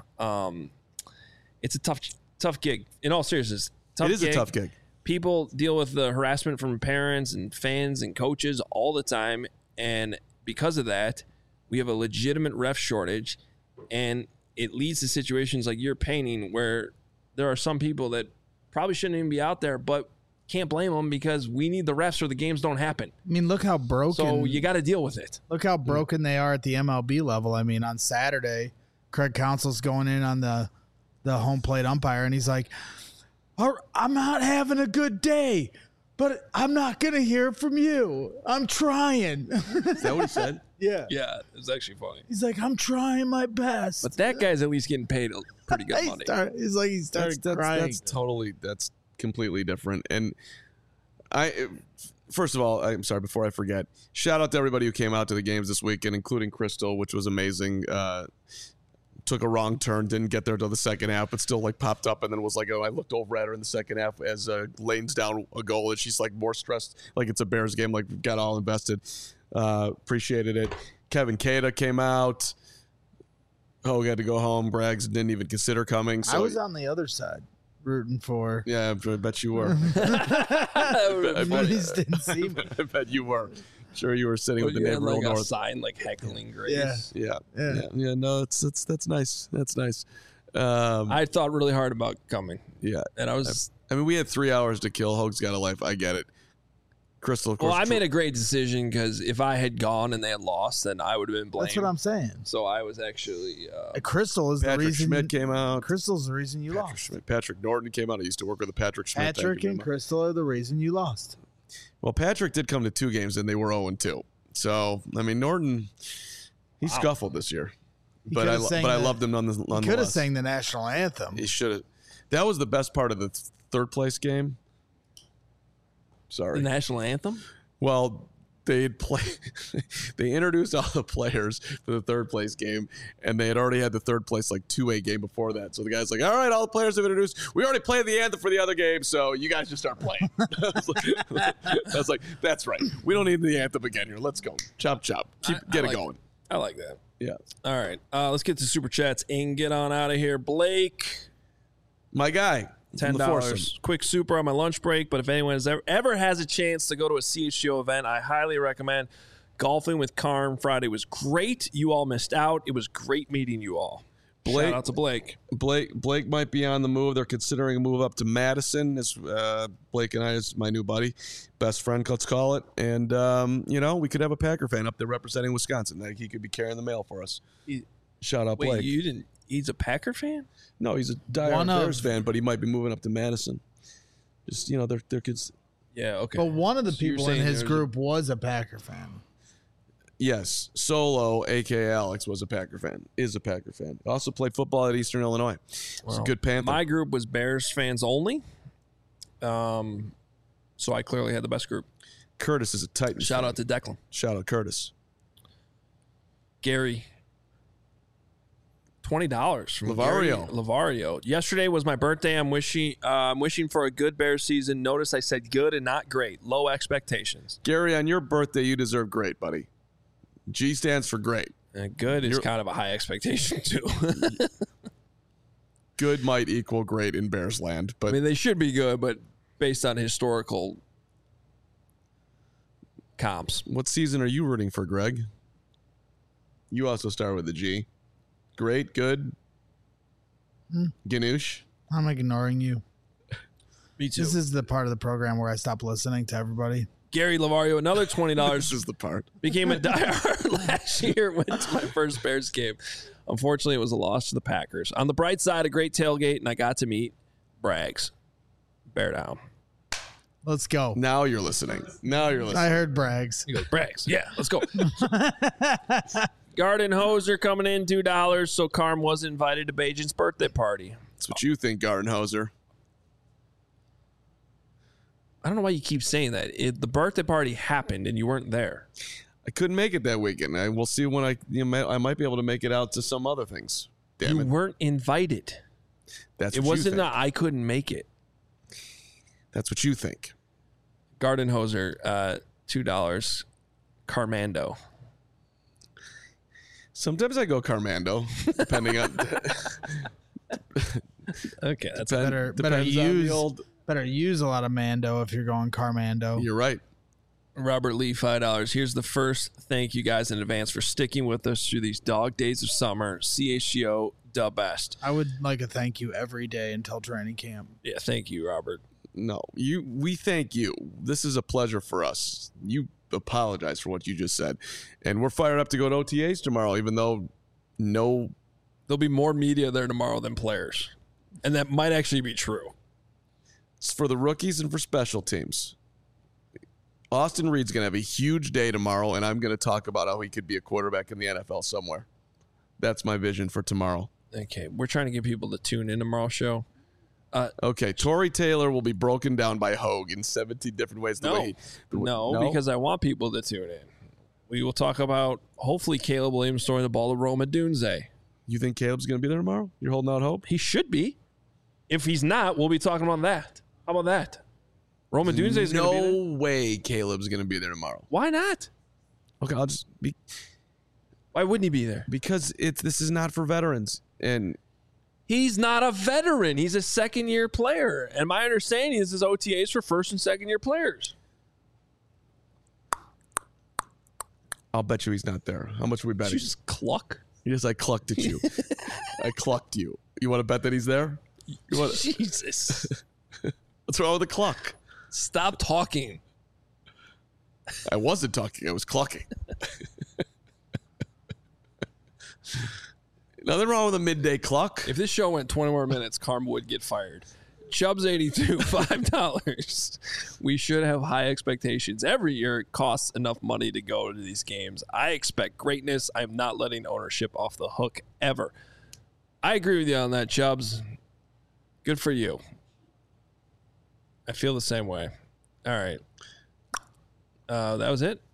it's a tough gig. In all seriousness, It is a tough gig. People deal with the harassment from parents and fans and coaches all the time, and because of that, we have a legitimate ref shortage, and it leads to situations like you're painting where there are some people that probably shouldn't even be out there, but can't blame them because we need the refs or the games don't happen. I mean, look how broken. So you got to deal with it. Look how broken they are at the MLB level. I mean, on Saturday, Craig Counsell's going in on the home plate umpire, and he's like, I'm not having a good day, but I'm not going to hear from you. I'm trying. Is that what he said? Yeah. Yeah, it was actually funny. He's like, I'm trying my best. But that guy's at least getting paid pretty good money. He started crying. That's completely different. And first of all, I'm sorry, before I forget, shout out to everybody who came out to the games this weekend, including Crystal, which was amazing. Took a wrong turn, didn't get there till the second half, but still popped up and then was like, oh, I looked over at her in the second half as lanes down a goal, and she's more stressed, like it's a Bears game, got all invested. Appreciated it. Kevin Cada came out. Oh, we had to go home. Braggs didn't even consider coming. So I was on the other side rooting for. Yeah, I bet you were. Movies didn't see me. I bet you were. Sure, you were sitting with the neighbor like North. a sign heckling Grace. Yeah. Yeah. No, that's nice. That's nice. I thought really hard about coming. Yeah, and I mean, we had 3 hours to kill. Hoag's got a life. I get it. Crystal, of course. Well, I made a great decision because if I had gone and they had lost, then I would have been blamed. That's what I'm saying. So I was actually. Crystal is Patrick the reason. Schmidt came out. Crystal's the reason you lost. Patrick Norton came out. I used to work with the Patrick Schmidt. Patrick and Crystal are the reason you lost. Well, Patrick did come to 2 games and they were 0-2. So I mean, Norton, he scuffled this year, but I loved him nonetheless. He could have sang the national anthem. He should have. That was the best part of the third place game. Sorry, the national anthem. Well, they introduced all the players for the third place game, and they had already had the third place 2A game before that. So the guy's like, all right, all the players have introduced. We already played the anthem for the other game, so you guys just start playing. I was like, that's right. We don't need the anthem again here. Let's go. Chop, chop. Get it going. I like that. Yeah. All right. Let's get to Super Chats and get on out of here. Blake. My guy. $10. Quick super on my lunch break, but if anyone has ever has a chance to go to a CHGO event, I highly recommend golfing with Carm. Friday was great. You all missed out. It was great meeting you all. Shout out to Blake. Blake might be on the move. They're considering a move up to Madison. Blake and I is my new buddy, best friend, let's call it. And, we could have a Packer fan up there representing Wisconsin. He could be carrying the mail for us. Shout out Blake. Wait, he's a Packer fan? No, he's a diehard Bears fan, but he might be moving up to Madison. Just, their kids. Yeah, okay. But one of the people in his group was a Packer fan. Yes, Solo, a.k.a. Alex, is a Packer fan. Also played football at Eastern Illinois. It's a good Panther. My group was Bears fans only. So I clearly had the best group. Curtis is a Titan. Shout out to Declan. Shout out Curtis. Gary. $20 from Lavario. Yesterday was my birthday. I'm wishing for a good Bears season. Notice I said good and not great. Low expectations. Gary, on your birthday, you deserve great, buddy. G stands for great. And good is kind of a high expectation too. Good might equal great in Bears land, but I mean they should be good, but based on historical comps. What season are you rooting for, Greg? You also start with a G. Great, good. Ganoush. I'm ignoring you. Me too. This is the part of the program where I stop listening to everybody. Gary Lavario, another $20. This is the part. Became a diehard last year. Went to my first Bears game. Unfortunately, it was a loss to the Packers. On the bright side, a great tailgate, and I got to meet Braggs. Bear down. Let's go. Now you're listening. I heard Braggs. He goes, Braggs. Yeah, let's go. Garden Hoser coming in $2. So Carm was invited to Bajan's birthday party. That's what you think, Gardenhauser. I don't know why you keep saying that. The birthday party happened and you weren't there. I couldn't make it that weekend. We'll see when I might be able to make it out to some other things. Damn You it. weren't invited. That's It what wasn't you that think. I couldn't make it. That's what you think. Garden Hoser, $2. Carmando. Sometimes I go Carmando, depending on. Okay, that's Better depends on the use old. better use a lot of Mando if you're going Carmando. You're right. Robert Lee, $5. Here's the first thank you guys in advance for sticking with us through these dog days of summer. CHGO, the best. I would like a thank you every day until training camp. Yeah, thank you, Robert. No, we thank you. This is a pleasure for us. You apologize for what you just said, and we're fired up to go to OTAs tomorrow. Even though There'll be more media there tomorrow than players, and that might actually be true. it's for the rookies and for special teams. Austin Reed's going to have a huge day tomorrow, and I'm going to talk about how he could be a quarterback in the NFL somewhere. That's my vision for tomorrow. Okay, we're trying to get people to tune in tomorrow's show. Okay, Torrey Taylor will be broken down by Hogue in 17 different ways. No, because I want people to tune in. We will talk about, hopefully, Caleb Williams throwing the ball to Rome Odunze. You think Caleb's going to be there tomorrow? You're holding out hope? He should be. If he's not, we'll be talking about that. How about that? Rome Odunze is going to be there. No way Caleb's going to be there tomorrow. Why not? Okay, I'll just be Why wouldn't he be there? because this is not for veterans, and He's not a veteran. He's a second-year player. And my understanding is his OTAs for first and second-year players. I'll bet you he's not there. How much are we Did betting? you just cluck? Yes, I clucked at you. I clucked you. You want to bet that he's there? You want Jesus. What's wrong with the cluck? Stop talking. I wasn't talking. I was clucking. Nothing wrong with a midday cluck. If this show went 20 more minutes, Carm would get fired. Chubbs82, $5. We should have high expectations. Every year it costs enough money to go to these games. I expect greatness. I'm not letting ownership off the hook ever. I agree with you on that, Chubbs. Good for you. I feel the same way. All right. That was it?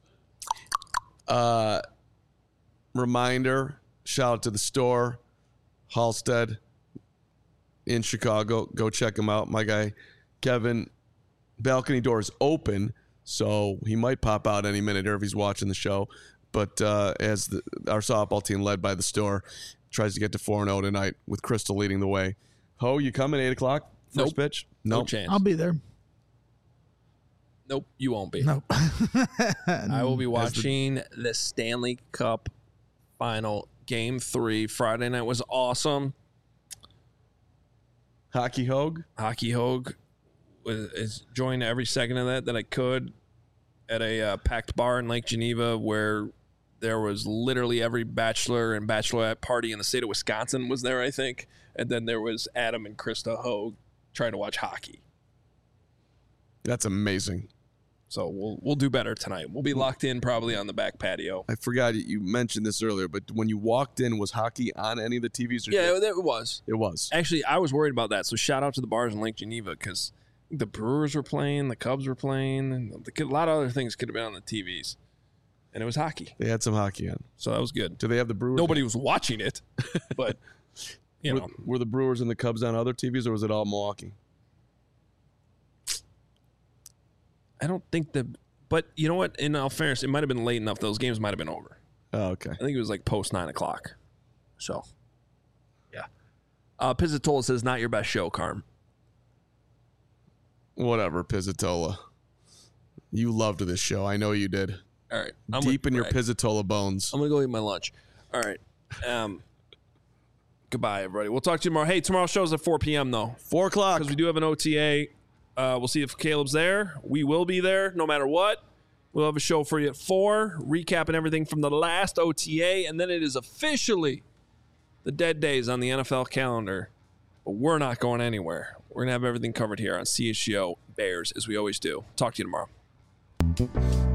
Reminder, shout out to the store, Halstead in Chicago. Go check him out. My guy, Kevin, balcony door is open, so he might pop out any minute here if he's watching the show. But as our softball team, led by the store, tries to get to 4-0 tonight with Crystal leading the way. Ho, you coming 8 o'clock? First Nope. pitch? No Nope. chance. I'll be there. Nope, you won't be. Nope. I will be watching the Stanley Cup final, Game 3. Friday night was awesome. Hockey Hogue? Hockey Hogue is enjoying every second of that I could at a packed bar in Lake Geneva where there was literally every bachelor and bachelorette party in the state of Wisconsin was there, I think. And then there was Adam and Krista Hogue trying to watch hockey. That's amazing. So we'll do better tonight. We'll be locked in probably on the back patio. I forgot you mentioned this earlier, but when you walked in, was hockey on any of the TVs? Or Yeah, it was. it was. Actually, I was worried about that. So shout out to the bars in Lake Geneva because the Brewers were playing, the Cubs were playing, and a lot of other things could have been on the TVs. And it was hockey. They had some hockey on. So that was good. Do they have the Brewers? Nobody was watching it, but, you know. Were the Brewers and the Cubs on other TVs, or was it all Milwaukee? I don't think but you know what? In all fairness, it might have been late enough. Those games might have been over. Oh, okay. I think it was like post 9 o'clock. So, yeah. Pizzatola says, not your best show, Carm. Whatever, Pizzatola. You loved this show. I know you did. All right. Deep in your Pizzatola bones. I'm going to go eat my lunch. All right. Goodbye, everybody. We'll talk to you tomorrow. Hey, tomorrow's show's at 4 p.m., though. 4 o'clock. Because we do have an OTA. We'll see if Caleb's there. We will be there no matter what. We'll have a show for you at 4, recapping everything from the last OTA, and then it is officially the dead days on the NFL calendar. But we're not going anywhere. We're going to have everything covered here on CHGO Bears, as we always do. Talk to you tomorrow.